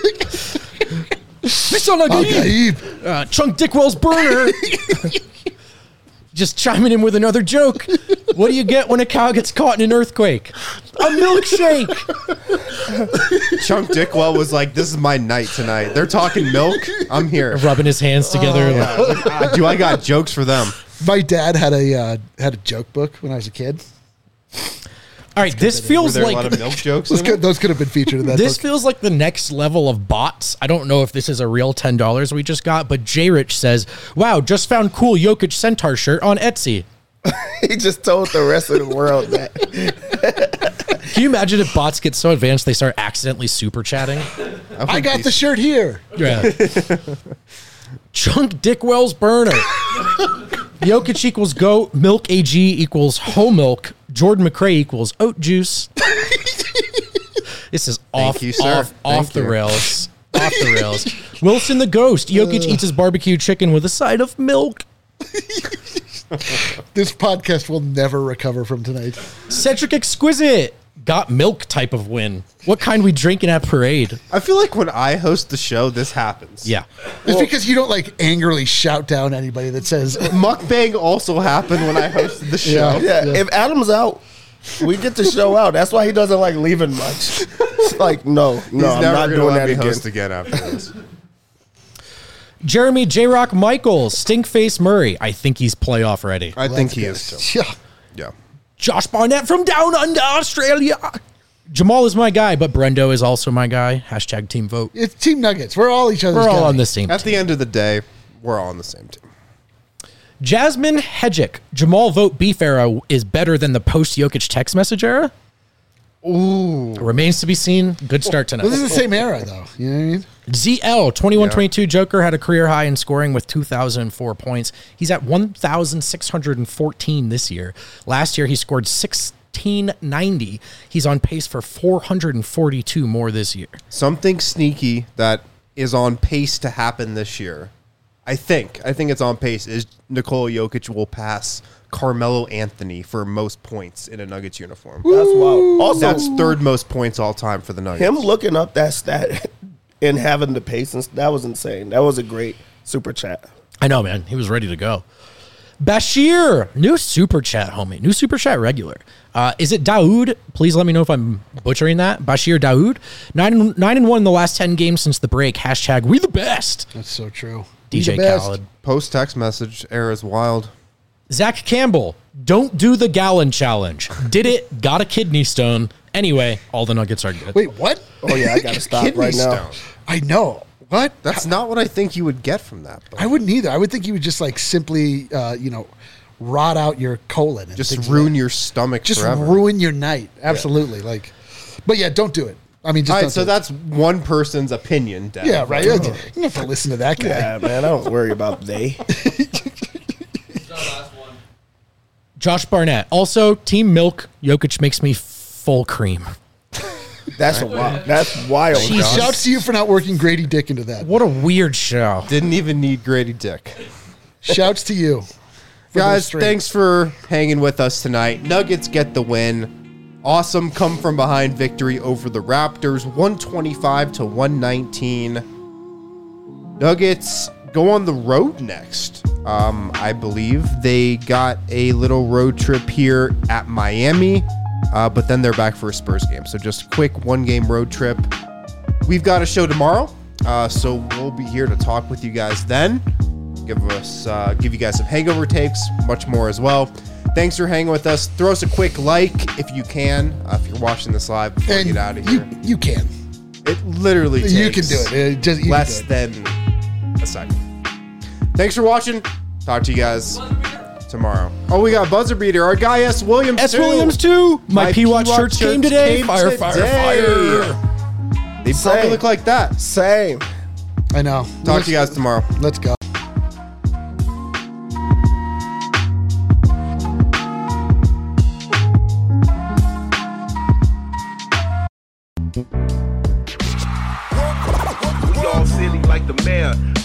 Mister Okay. uh, Chunk Dickwell's burner. Just chiming in with another joke. What do you get when a cow gets caught in an earthquake? A milkshake. Chunk Dickwell was like, "This is my night tonight. They're talking milk. I'm here. Rubbing his hands together. Yeah, I was like, ah, do I got jokes for them?" My dad had a uh, had a joke book when I was a kid. All right, this Were feels there a like lot of milk jokes? Those in could, it? those could have been featured in that this book. feels like the next level of bots. I don't know if this is a real ten dollars we just got, but J Rich says, "Wow, just found cool Jokic Centaur shirt on Etsy." He just told the rest of the world that. Can you imagine if bots get so advanced they start accidentally super chatting? I got the shirt here. Yeah. Chunk Dickwell's burner. Jokic equals goat. Milk A G equals whole milk. Jordan McRae equals oat juice. This is off, you, sir. off, off Thank the you. rails. Off the rails. Wilson the ghost. Jokic eats his barbecue chicken with a side of milk. This podcast will never recover from tonight. Cedric Exquisite. Got milk type of win. What kind we drinking at parade? I feel like when I host the show, this happens. Yeah. It's because you don't like angrily shout down anybody that says Mukbang also happened when I hosted the show. Yeah. Yeah, if Adam's out, we get the show out. That's why he doesn't like leaving much. It's like, no, no, He's I'm never not gonna doing let that me again. host again after this. Jeremy J Rock Michaels. Stinkface Murray. I think he's playoff ready. I think he is too. yeah. Yeah. Josh Barnett from down under Australia. Jamal is my guy, but Brendo is also my guy. Hashtag team vote. It's Team Nuggets. We're all each other's We're all guy. on the same At team. the end of the day, we're all on the same team. Jasmine Hedgick. Jamal vote beef era is better than the post Jokic text message era. Ooh. Right? remains to be seen. Good start tonight. This is the same era, though. You know what I mean? Z L twenty-one twenty-two Joker had a career high in scoring with two thousand four points. He's at one thousand six hundred fourteen this year. Last year, he scored sixteen ninety. He's on pace for four hundred forty-two more this year. Something sneaky that is on pace to happen this year. I think. I think it's on pace. Is Nikola Jokic will pass Carmelo Anthony for most points in a Nuggets uniform. That's wild. Also, That's third most points all time for the Nuggets. him looking up that stat and having the patience, that was insane. That was a great super chat. I know, man. He was ready to go. Bashir, new super chat, homie. New super chat regular. Uh, is it Daoud? Please let me know if I'm butchering that. Bashir Daoud. Nine, nine and one in the last ten games since the break. Hashtag we the best. That's so true. D J We the best. Khaled. Post text message era is wild. Zach Campbell. Don't do the gallon challenge. Did it. Got a kidney stone. Anyway, all the Nuggets are good. Wait, what? Oh, yeah, I got to stop Kidney right now. stone. I know. What? That's not what I think you would get from that. But I wouldn't either. I would think you would just like simply, uh, you know, rot out your colon. And just things like ruin that. your stomach Just forever. ruin your night. Absolutely. Like, but yeah, don't do it. I mean, just All don't right, so do it. that's one person's opinion, Dan. Yeah, right. You don't have to listen to that guy. Yeah, man, I don't worry about they. Josh Barnett. Also, Team Milk. Jokic makes me full cream. That's a wild. That's wild. He Josh. shouts to you for not working Grady Dick into that. What a weird show. Didn't even need Grady Dick. Shouts to you. for those Guys, straight. thanks for hanging with us tonight. Nuggets get the win. Awesome come from behind victory over the Raptors, one twenty-five to one nineteen. Nuggets go on the road next. Um, I believe they got a little road trip here at Miami, uh, but then they're back for a Spurs game. So just a quick one-game road trip. We've got a show tomorrow, uh, so we'll be here to talk with you guys then. Give us, uh, give you guys some hangover takes, much more as well. Thanks for hanging with us. Throw us a quick like if you can, uh, if you're watching this live before And we get out of you, here. you can. It literally takes You can do it. It just, you less can do it. than a second. Thanks for watching. Talk to you guys tomorrow. Oh, we got Buzzer Beater. Our guy S. Williams S. too. Williams too. My, My P Watch P-Watch shirts came shirts today. came fire, today. fire, fire. They Same. probably look like that. Same. I know. Talk Let's- to you guys tomorrow. Let's go. We all silly like the mayor.